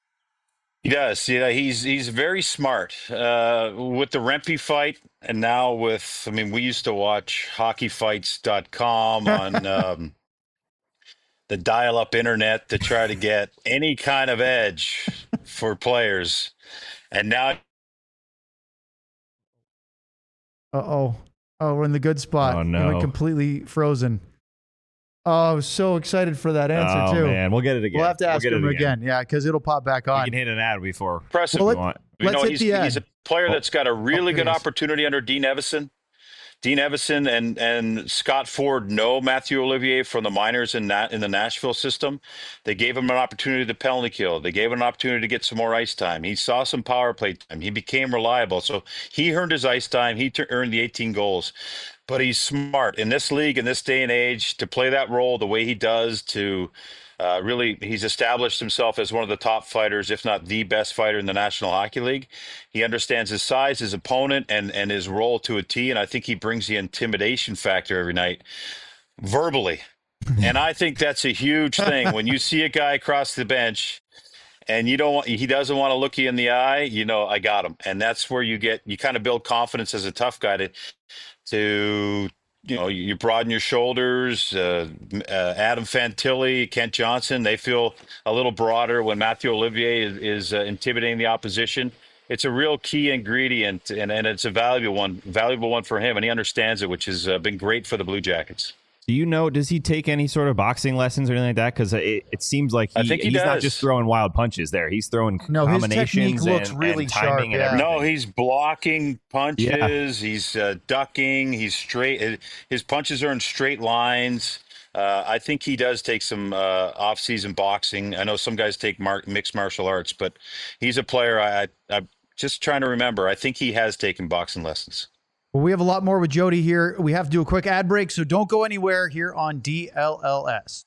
He does. Yeah, he's he's very smart. Uh, with the Rempe fight, and now with, I mean, we used to watch hockey fights dot com on um, the dial-up internet to try to get any kind of edge for players. And now Uh-oh. Oh, we're in the good spot. Oh, We no. went completely frozen. Oh, I was so excited for that answer, oh, too. man. We'll get it again. We'll have to We'll ask get him it again. Yeah, because it'll pop back We on. can hit an ad before impressive. Well, we let- want. You Let's know, hit he's, the ad. he's a player that's got a really Oh, good please. opportunity under Dean Evison. Dean Evison and, and Scott Ford know Matthew Olivier from the minors in that in the Nashville system. They gave him an opportunity to penalty kill. They gave him an opportunity to get some more ice time. He saw some power play time. He became reliable. So he earned his ice time. He t- earned the eighteen goals. But he's smart in this league, in this day and age, to play that role the way he does, to uh, really, he's established himself as one of the top fighters, if not the best fighter in the National Hockey League. He understands his size, his opponent, and, and his role to a T, and I think he brings the intimidation factor every night, verbally. And I think that's a huge thing. When you see a guy across the bench and you don't want, he doesn't want to look you in the eye, you know, I got him. And that's where you get, you kind of build confidence as a tough guy to, to you know, you broaden your shoulders. Uh, uh, Adam Fantilli, Kent Johnson, they feel a little broader when Matthew Olivier is, is uh, intimidating the opposition. It's a real key ingredient, and, and it's a valuable one, valuable one for him, and he understands it, which has uh, been great for the Blue Jackets. Do you know, does he take any sort of boxing lessons or anything like that? Because it, it seems like he, I think he he's not does. just throwing wild punches there. He's throwing No, his combinations technique looks and, really and timing sharp, and yeah. everything. No, he's blocking punches. Yeah. He's uh, ducking. He's straight. His punches are in straight lines. Uh, I think he does take some uh, off-season boxing. I know some guys take mar- mixed martial arts, but he's a player. I, I, I'm just trying to remember. I think he has taken boxing lessons. Well, we have a lot more with Jody here. We have to do a quick ad break, so don't go anywhere here on D L L S.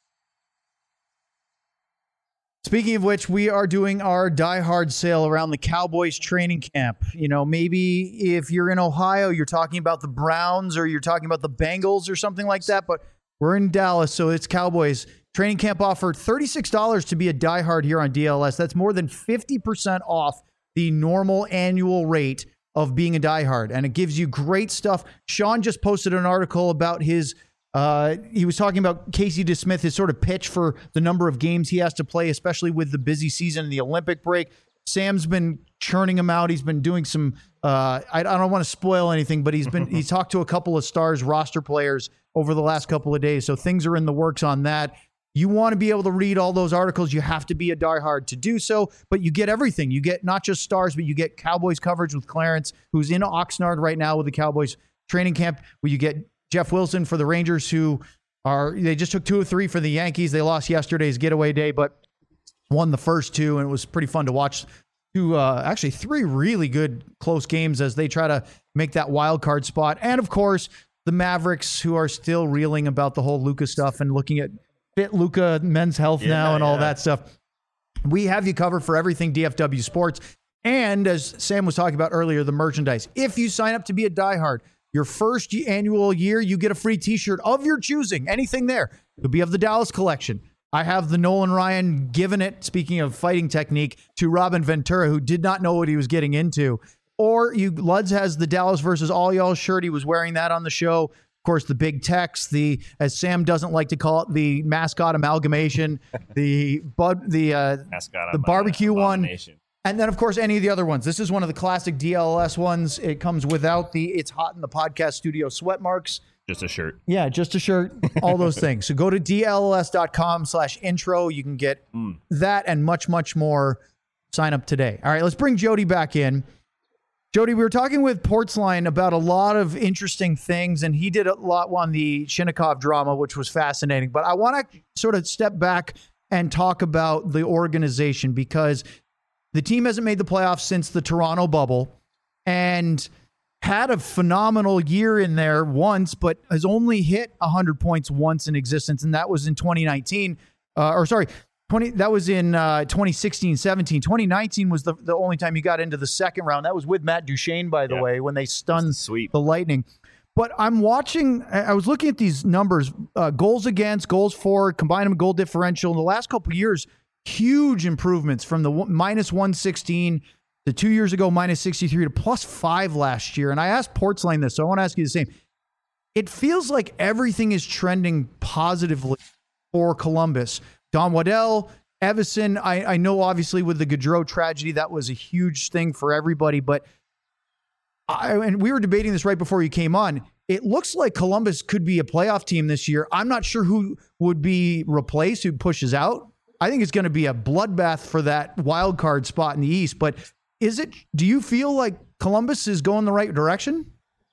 Speaking of which, we are doing our Die Hard sale around the Cowboys training camp. You know, maybe if you're in Ohio, you're talking about the Browns or you're talking about the Bengals or something like that, but we're in Dallas, so it's Cowboys. Training camp offer thirty-six dollars to be a Die Hard here on D L S. That's more than fifty percent off the normal annual rate of being a Die Hard, and it gives you great stuff. Sean just posted an article about his Uh, he was talking about Casey DeSmith, his sort of pitch for the number of games he has to play, especially with the busy season and the Olympic break. Sam's been churning him out. He's been doing some, uh, I, I don't want to spoil anything, but he's been, he's talked to a couple of Stars roster players over the last couple of days. So things are in the works on that. You want to be able to read all those articles. You have to be a diehard to do so, but you get everything. You get not just Stars, but you get Cowboys coverage with Clarence, who's in Oxnard right now with the Cowboys training camp, where you get Jeff Wilson for the Rangers, who are, they just took two or three for the Yankees. They lost yesterday's getaway day, but won the first two, and it was pretty fun to watch two, uh, actually three really good close games as they try to make that wild card spot. And of course, the Mavericks, who are still reeling about the whole Luka stuff and looking at fit Luka men's health yeah, now and all yeah. that stuff. We have you covered for everything D F W sports. And as Sam was talking about earlier, the merchandise. If you sign up to be a diehard, your first annual year, you get a free t-shirt of your choosing. Anything there. It could be of the Dallas collection. I have the Nolan Ryan giving it, speaking of fighting technique, to Robin Ventura, who did not know what he was getting into. Or you, Luds has the Dallas versus All Y'all shirt. He was wearing that on the show. Of course, the big Tex, the, as Sam doesn't like to call it, the mascot amalgamation, the bud, the uh, mascot the barbecue one. And then, of course, any of the other ones. This is one of the classic D L L S ones. It comes without the It's Hot in the Podcast Studio sweat marks. Just a shirt. Yeah, just a shirt. All those things. So go to D L L S dot com slash intro. You can get mm. that and much, much more. Sign up today. All right, let's bring Jody back in. Jody, we were talking with Portsline about a lot of interesting things, and he did a lot on the Shinnikov drama, which was fascinating. But I want to sort of step back and talk about the organization, because the team hasn't made the playoffs since the Toronto bubble and had a phenomenal year in there once, but has only hit one hundred points once in existence, and that was in twenty nineteen. Uh, or sorry, twenty that was in uh, twenty sixteen seventeen. twenty nineteen was the, the only time you got into the second round. That was with Matt Duchene, by the yeah. way, when they stunned the, the Lightning. But I'm watching, I was looking at these numbers, uh, goals against, goals for, combine them goal differential in the last couple of years. Huge improvements from the minus one sixteen to two years ago, minus sixty-three to plus five last year. And I asked Portsline this, so I want to ask you the same. It feels like everything is trending positively for Columbus. Don Waddell, Evison, I, I know obviously with the Gaudreau tragedy, that was a huge thing for everybody. But I, and we were debating this right before you came on. It looks like Columbus could be a playoff team this year. I'm not sure who would be replaced, who pushes out. I think it's going to be a bloodbath for that wild card spot in the East. But is it? Do you feel like Columbus is going the right direction?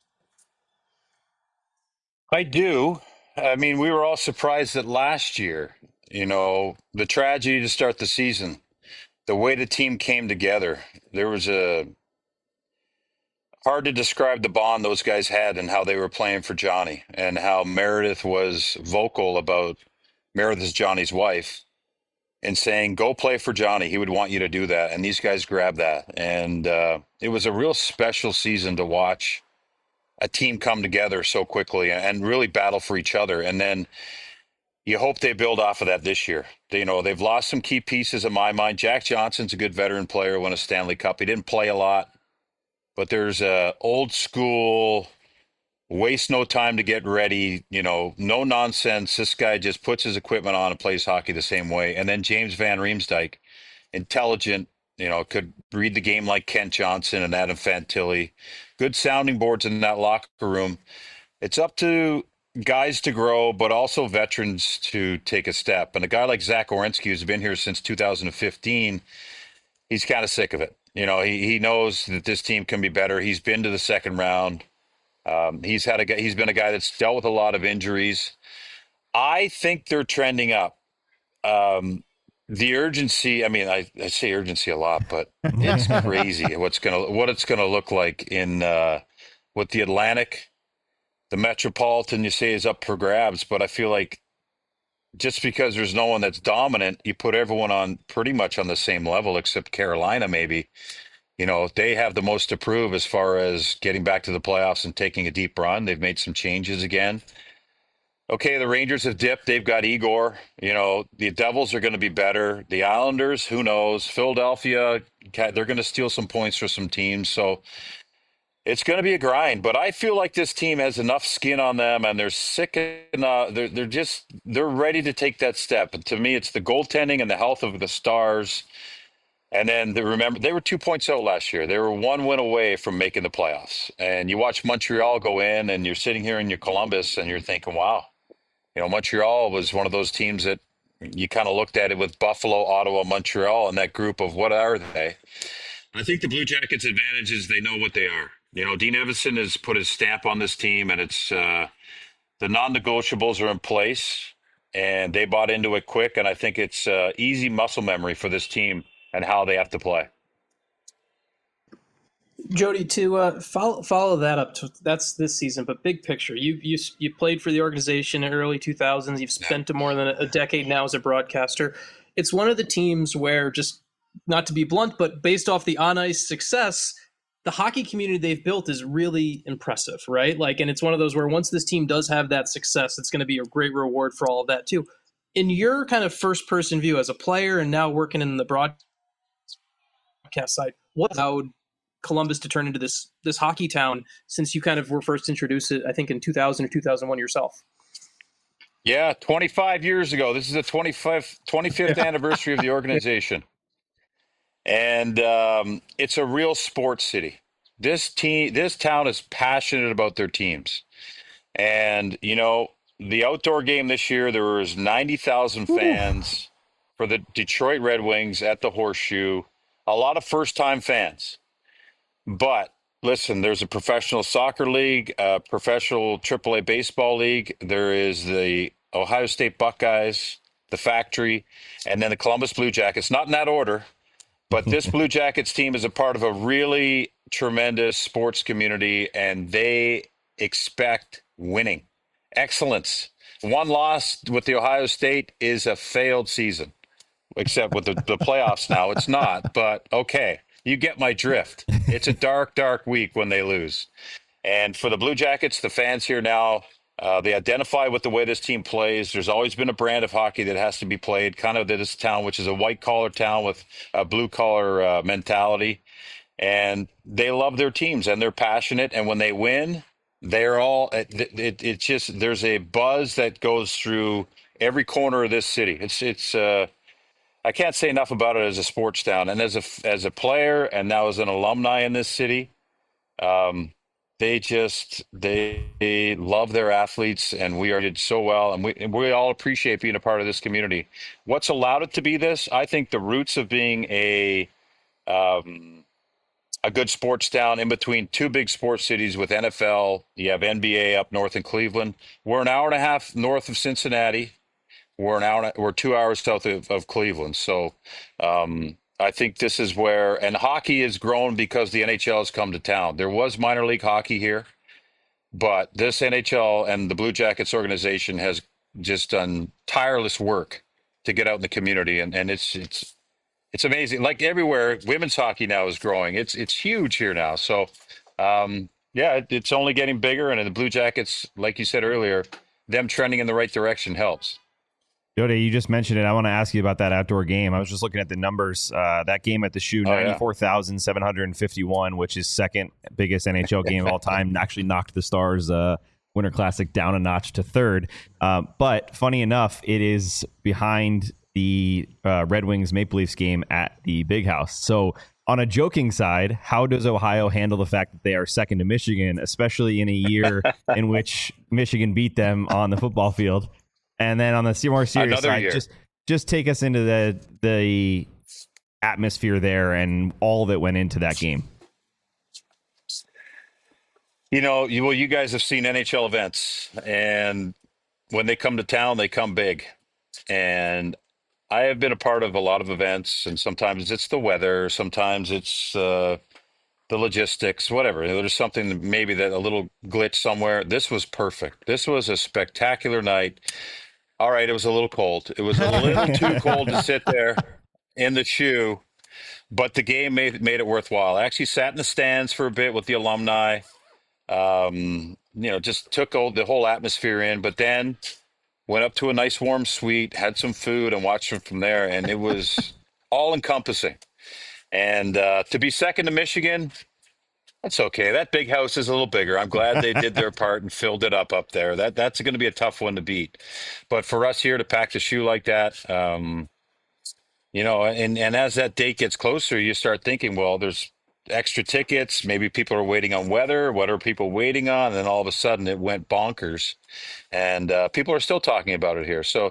I do. I mean, we were all surprised that last year, you know, the tragedy to start the season, the way the team came together, there was a hard to describe the bond those guys had and how they were playing for Johnny, and how Meredith was vocal about Meredith's Johnny's wife. And saying, go play for Johnny. He would want you to do that. And these guys grabbed that. And uh, it was a real special season to watch a team come together so quickly and really battle for each other. And then you hope they build off of that this year. They, you know, they've lost some key pieces in my mind. Jack Johnson's a good veteran player, won a Stanley Cup. He didn't play a lot. But there's a old school, waste no time to get ready, you know, no nonsense. This guy just puts his equipment on and plays hockey the same way. And then James Van Riemsdyk, intelligent, you know, could read the game like Kent Johnson and Adam Fantilli. Good sounding boards in that locker room. It's up to guys to grow, but also veterans to take a step. And a guy like Zach Werenski, who's been here since two thousand fifteen, he's kind of sick of it. You know, he, he knows that this team can be better. He's been to the second round. Um, he's had a he's been a guy that's dealt with a lot of injuries. I think they're trending up. Um, the urgency, I mean, I, I say urgency a lot, but it's crazy what's gonna what it's gonna look like in uh, with the Atlantic, the Metropolitan. You say is up for grabs, but I feel like just because there's no one that's dominant, you put everyone on pretty much on the same level, except Carolina. Maybe you know they have the most to prove as far as getting back to the playoffs and taking a deep run. They've made some changes again. Okay, the Rangers have dipped. They've got Igor. You know, the Devils are going to be better. The Islanders, who knows? Philadelphia, they're going to steal some points for some teams. So it's going to be a grind. But I feel like this team has enough skin on them, and they're sick enough. They're, they're just, they're ready to take that step. And to me, it's the goaltending and the health of the Stars. And then the, remember, they were two points out last year. They were one win away from making the playoffs. And you watch Montreal go in, and you're sitting here in your Columbus, and you're thinking, wow. You know, Montreal was one of those teams that you kind of looked at it with Buffalo, Ottawa, Montreal, and that group of what are they? I think the Blue Jackets' advantage is they know what they are. You know, Dean Evason has put his stamp on this team, and it's uh, the non-negotiables are in place, and they bought into it quick, and I think it's uh, easy muscle memory for this team and how they have to play. Jody, to uh, follow follow that up, to, that's this season, but big picture, you you you played for the organization in early two thousands. You've spent more than a decade now as a broadcaster. It's one of the teams where, just not to be blunt, but based off the on ice success, the hockey community they've built is really impressive, right? Like, and it's one of those where once this team does have that success, it's going to be a great reward for all of that too. In your kind of first person view as a player and now working in the broadcast side, what allowed Columbus to turn into this this hockey town since you kind of were first introduced it, I think, in two thousand or two thousand one yourself? Yeah, twenty-five years ago. This is the twenty-fifth, twenty-fifth anniversary of the organization. And um, it's a real sports city. This team, this town is passionate about their teams. And, you know, the outdoor game this year, there was ninety thousand fans for the Detroit Red Wings at the Horseshoe. A lot of first-time fans. But listen, there's a professional soccer league, a professional triple A baseball league. There is the Ohio State Buckeyes, the Factory, and then the Columbus Blue Jackets. Not in that order, but this Blue Jackets team is a part of a really tremendous sports community, and they expect winning, excellence. One loss with the Ohio State is a failed season, except with the, the playoffs now. It's not, but okay. You get my drift. It's a dark, dark week when they lose. And for the Blue Jackets, the fans here now, uh, they identify with the way this team plays. There's always been a brand of hockey that has to be played, kind of this town, which is a white-collar town with a blue-collar uh, mentality. And they love their teams, and they're passionate. And when they win, they're all it, it, it's just there's a buzz that goes through every corner of this city. It's it's uh, I can't say enough about it as a sports town, and as a as a player, and now as an alumni in this city. Um, they just they, they love their athletes, and we are did so well, and we and we all appreciate being a part of this community. What's allowed it to be this? I think the roots of being a um, a good sports town in between two big sports cities with N F L. You have N B A up north in Cleveland. We're an hour and a half north of Cincinnati. We're an hour. We're two hours south of, of Cleveland. So um, I think this is where, and hockey has grown because the N H L has come to town. There was minor league hockey here, but this N H L and the Blue Jackets organization has just done tireless work to get out in the community, and, and it's it's it's amazing. Like everywhere, women's hockey now is growing. It's it's huge here now. So um, yeah, it, it's only getting bigger, and the Blue Jackets, like you said earlier, them trending in the right direction helps. Jody, you just mentioned it. I want to ask you about that outdoor game. I was just looking at the numbers. Uh, that game at the Shoe, oh, ninety-four thousand seven hundred fifty-one, which is second biggest N H L game of all time, actually knocked the Stars uh, Winter Classic down a notch to third. Uh, but funny enough, it is behind the uh, Red Wings Maple Leafs game at the Big House. So on a joking side, how does Ohio handle the fact that they are second to Michigan, especially in a year in which Michigan beat them on the football field? And then on the more serious Another side, year. just just take us into the the atmosphere there and all that went into that game. You know, you, well, you guys have seen N H L events, and when they come to town, they come big. And I have been a part of a lot of events, and sometimes it's the weather, sometimes it's uh, the logistics, whatever. There's something that maybe that a little glitch somewhere. This was perfect. This was a spectacular night. All right, it was a little cold. It was a little too cold to sit there in the shoe, but the game made made it worthwhile. I actually sat in the stands for a bit with the alumni. Um, you know, just took all, the whole atmosphere in, but then went up to a nice warm suite, had some food, and watched them from there. And it was all encompassing. And uh, to be second to Michigan, that's okay. That big house is a little bigger. I'm glad they did their part and filled it up up there. That that's going to be a tough one to beat. But for us here to pack the shoe like that, um, you know, and and as that date gets closer, you start thinking, well, there's extra tickets. Maybe people are waiting on weather. What are people waiting on? And then all of a sudden, it went bonkers, and uh, people are still talking about it here. So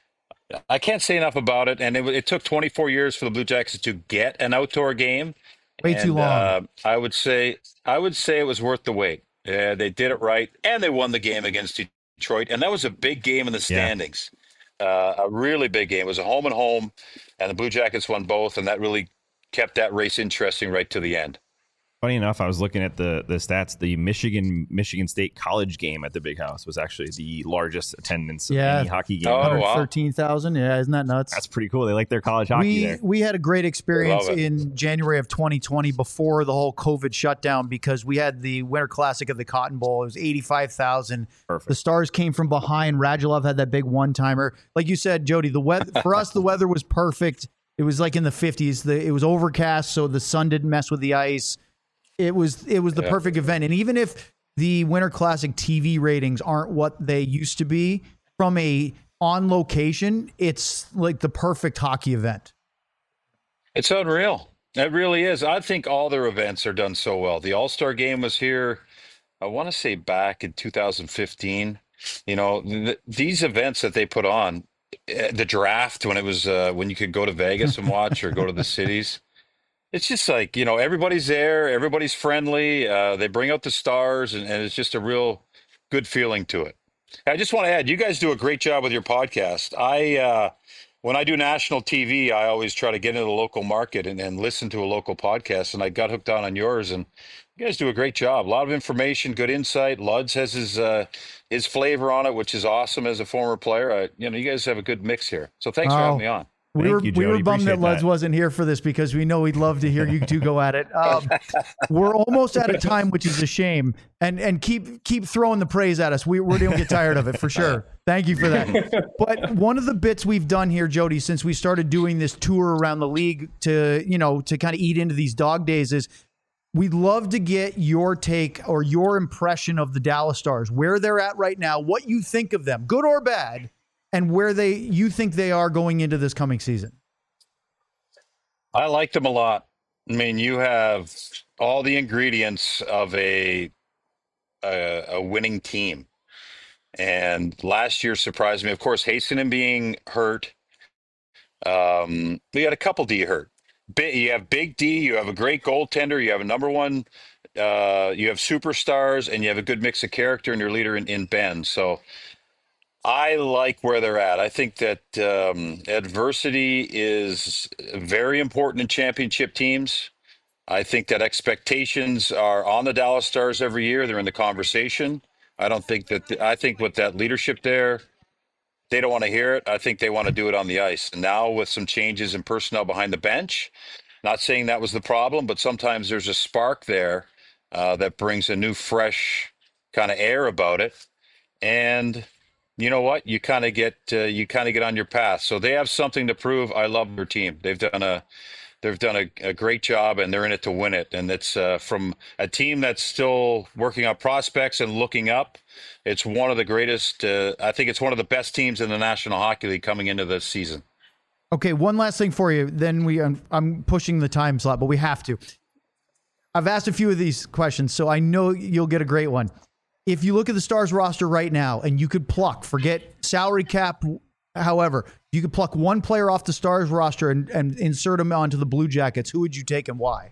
I can't say enough about it. And it, it took twenty-four years for the Blue Jackets to get an outdoor game. Way and, too long. Uh, I would say I would say it was worth the wait. Yeah, they did it right, and they won the game against Detroit, and that was a big game in the standings. Yeah. Uh, a really big game. It was a home and home, and the Blue Jackets won both, and that really kept that race interesting right to the end. Funny enough, I was looking at the the stats. The Michigan Michigan State college game at the Big House was actually the largest attendance Yeah. of any hockey game. Oh, ever. wow. thirteen thousand. Yeah, isn't that nuts? That's pretty cool. They like their college hockey we, there. We had a great experience Love it. in January of twenty twenty before the whole COVID shutdown because we had the Winter Classic of the Cotton Bowl. It was eighty-five thousand. Perfect. The Stars came from behind. Radulov had that big one-timer. Like you said, Jody, the weather for us, the weather was perfect. It was like in the fifties. The, it was overcast, so the sun didn't mess with the ice. It was it was the Yeah. perfect event. And even if the Winter Classic T V ratings aren't what they used to be, from a on location, it's like the perfect hockey event. It's unreal. It really is. I think all their events are done so well. The All-Star game was here, I want to say back in two thousand fifteen. You know, th- these events that they put on, eh, the draft when it was uh, when you could go to Vegas and watch or go to the cities. It's just like, you know, everybody's there, everybody's friendly. Uh, they bring out the stars, and, and it's just a real good feeling to it. I just want to add, you guys do a great job with your podcast. I, uh, when I do national T V, I always try to get into the local market and, and listen to a local podcast. And I got hooked on on yours, and you guys do a great job. A lot of information, good insight. Luds has his uh, his flavor on it, which is awesome as a former player. I, you know, you guys have a good mix here. So thanks for Oh. having me on. We Thank were you, we were Jody. bummed that Appreciate Luds that. wasn't here for this because we know we'd love to hear you two go at it. Um, we're almost out of time, which is a shame. And and keep keep throwing the praise at us. We we don't get tired of it for sure. Thank you for that. But one of the bits we've done here, Jody, since we started doing this tour around the league to you know to kind of eat into these dog days is we'd love to get your take or your impression of the Dallas Stars, where they're at right now, what you think of them, good or bad, and where they you think they are going into this coming season. I like them a lot. I mean, you have all the ingredients of a a, a winning team. And last year surprised me. Of course, Hastenin being hurt. Um, we had a couple D hurt. Big, you have Big D. You have a great goaltender. You have a number one. Uh, you have superstars, and you have a good mix of character and your leader in, in Ben. So I like where they're at. I think that um, adversity is very important in championship teams. I think that expectations are on the Dallas Stars every year. They're in the conversation. I don't think that, I think with that leadership there, they don't want to hear it. I think they want to do it on the ice. And now with some changes in personnel behind the bench, not saying that was the problem, but sometimes there's a spark there uh, that brings a new, fresh kind of air about it. And you know what? You kind of get uh, you kind of get on your path. So they have something to prove. I love their team. They've done a they've done a, a great job, and they're in it to win it. And it's uh, from a team that's still working on prospects and looking up. It's one of the greatest. Uh, I think it's one of the best teams in the National Hockey League coming into this season. Okay, one last thing for you. Then we I'm, I'm pushing the time slot, but we have to. I've asked a few of these questions, so I know you'll get a great one. If you look at the Stars roster right now and you could pluck, forget salary cap, however, you could pluck one player off the Stars roster and, and insert him onto the Blue Jackets, who would you take and why?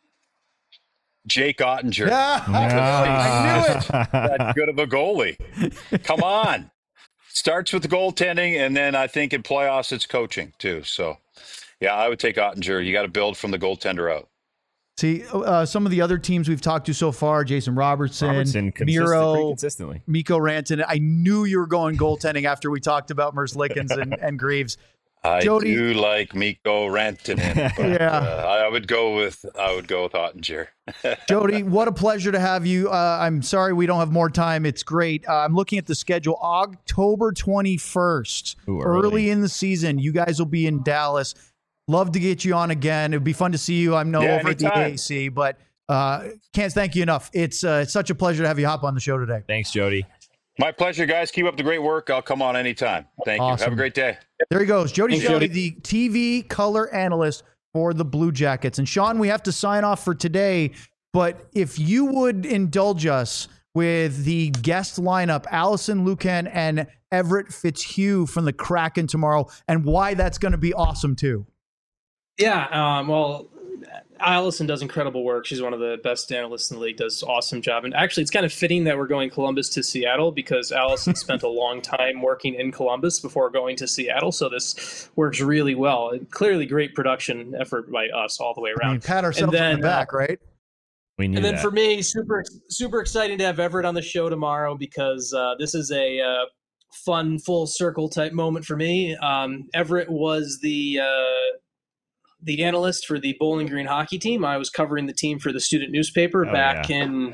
Jake Ottinger. Yeah, I knew it. That good of a goalie. Come on. starts with the goaltending, and then I think in playoffs it's coaching too. So, yeah, I would take Ottinger. You got to build from the goaltender out. See, uh, some of the other teams we've talked to so far, Jason Robertson, Robertson Miro, consistently. Mikko Rantanen. I knew you were going goaltending after we talked about Merce Lickens and, and Greaves. I Jody, do like Mikko Rantanen. But, yeah, uh, I would go with I would go with Ottinger. Jody, what a pleasure to have you. Uh, I'm sorry we don't have more time. It's great. Uh, I'm looking at the schedule. October twenty-first, Ooh, early. early in the season. You guys will be in Dallas. Love to get you on again. It'd be fun to see you. I'm no Yeah, over at the A A C, but uh, can't thank you enough. It's uh, it's such a pleasure to have you hop on the show today. Thanks, Jody. My pleasure, guys. Keep up the great work. I'll come on anytime. Thank Awesome. you. Have a great day. There he goes. Jody Thanks, Shelley, Jody. the T V color analyst for the Blue Jackets. And Sean, we have to sign off for today, but if you would indulge us with the guest lineup, Allison Lukan and Everett Fitzhugh from the Kraken tomorrow, and why that's going to be awesome too. Yeah, um, well, Allison does incredible work. She's one of the best analysts in the league, does an awesome job. And actually, it's kind of fitting that we're going Columbus to Seattle because Allison spent a long time working in Columbus before going to Seattle. So this works really well. And clearly great production effort by us all the way around. I mean, pat ourselves then, on the back, right? We knew And then that. for me, super super exciting to have Everett on the show tomorrow because uh, this is a uh, fun full circle type moment for me. Um, Everett was the uh, the analyst for the Bowling Green hockey team. I was covering the team for the student newspaper Oh, back yeah. in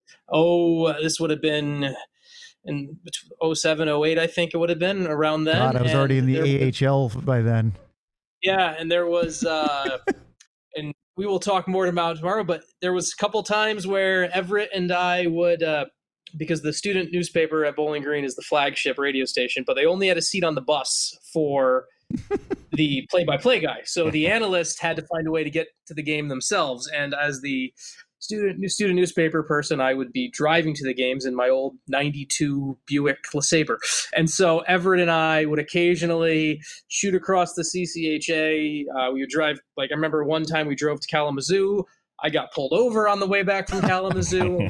oh this would have been in oh seven, oh eight, I think it would have been around then. God, I was And already in the there- A H L by then. Yeah, and there was uh, and we will talk more about it tomorrow, but there was a couple times where Everett and I would, uh, because the student newspaper at Bowling Green is the flagship radio station, but they only had a seat on the bus for the play-by-play guy. So the analyst had to find a way to get to the game themselves. And as the student student newspaper person, I would be driving to the games in my old ninety-two Buick LeSabre. And so Everett and I would occasionally shoot across the C C H A. Uh, we would drive, like I remember one time we drove to Kalamazoo. I got pulled over on the way back from Kalamazoo.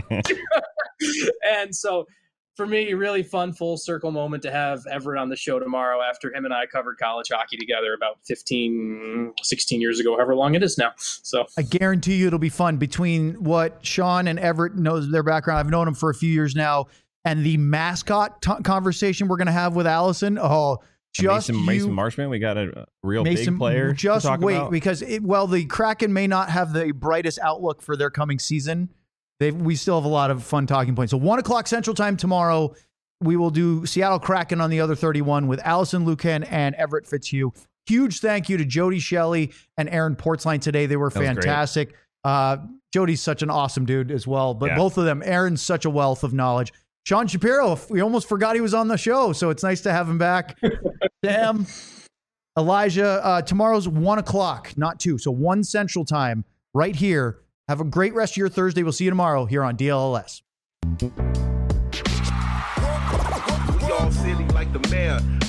And so for me, really fun full circle moment to have Everett on the show tomorrow after him and I covered college hockey together about fifteen, sixteen years ago, however long it is now. So I guarantee you it'll be fun between what Sean and Everett knows their background. I've known them for a few years now, and the mascot t- conversation we're going to have with Allison. Oh, just Mason, you, Mason Marshman, we got a real Mason, big player. to Just talk wait, about. because it, well, the Kraken may not have the brightest outlook for their coming season. They we still have a lot of fun talking points. So one o'clock Central Time tomorrow. We will do Seattle Kraken on the other thirty-one with Allison Lukan and Everett Fitzhugh. Huge thank you to Jody Shelley and Aaron Portzline today. They were That was great. fantastic. Uh, Jody's such an awesome dude as well. But Yeah. both of them, Aaron's such a wealth of knowledge. Sean Shapiro, we almost forgot he was on the show, so it's nice to have him back. Sam, Elijah, uh, tomorrow's one o'clock, not two. So one Central Time right here. Have a great rest of your Thursday. We'll see you tomorrow here on D L L S. We all silly like the mayor.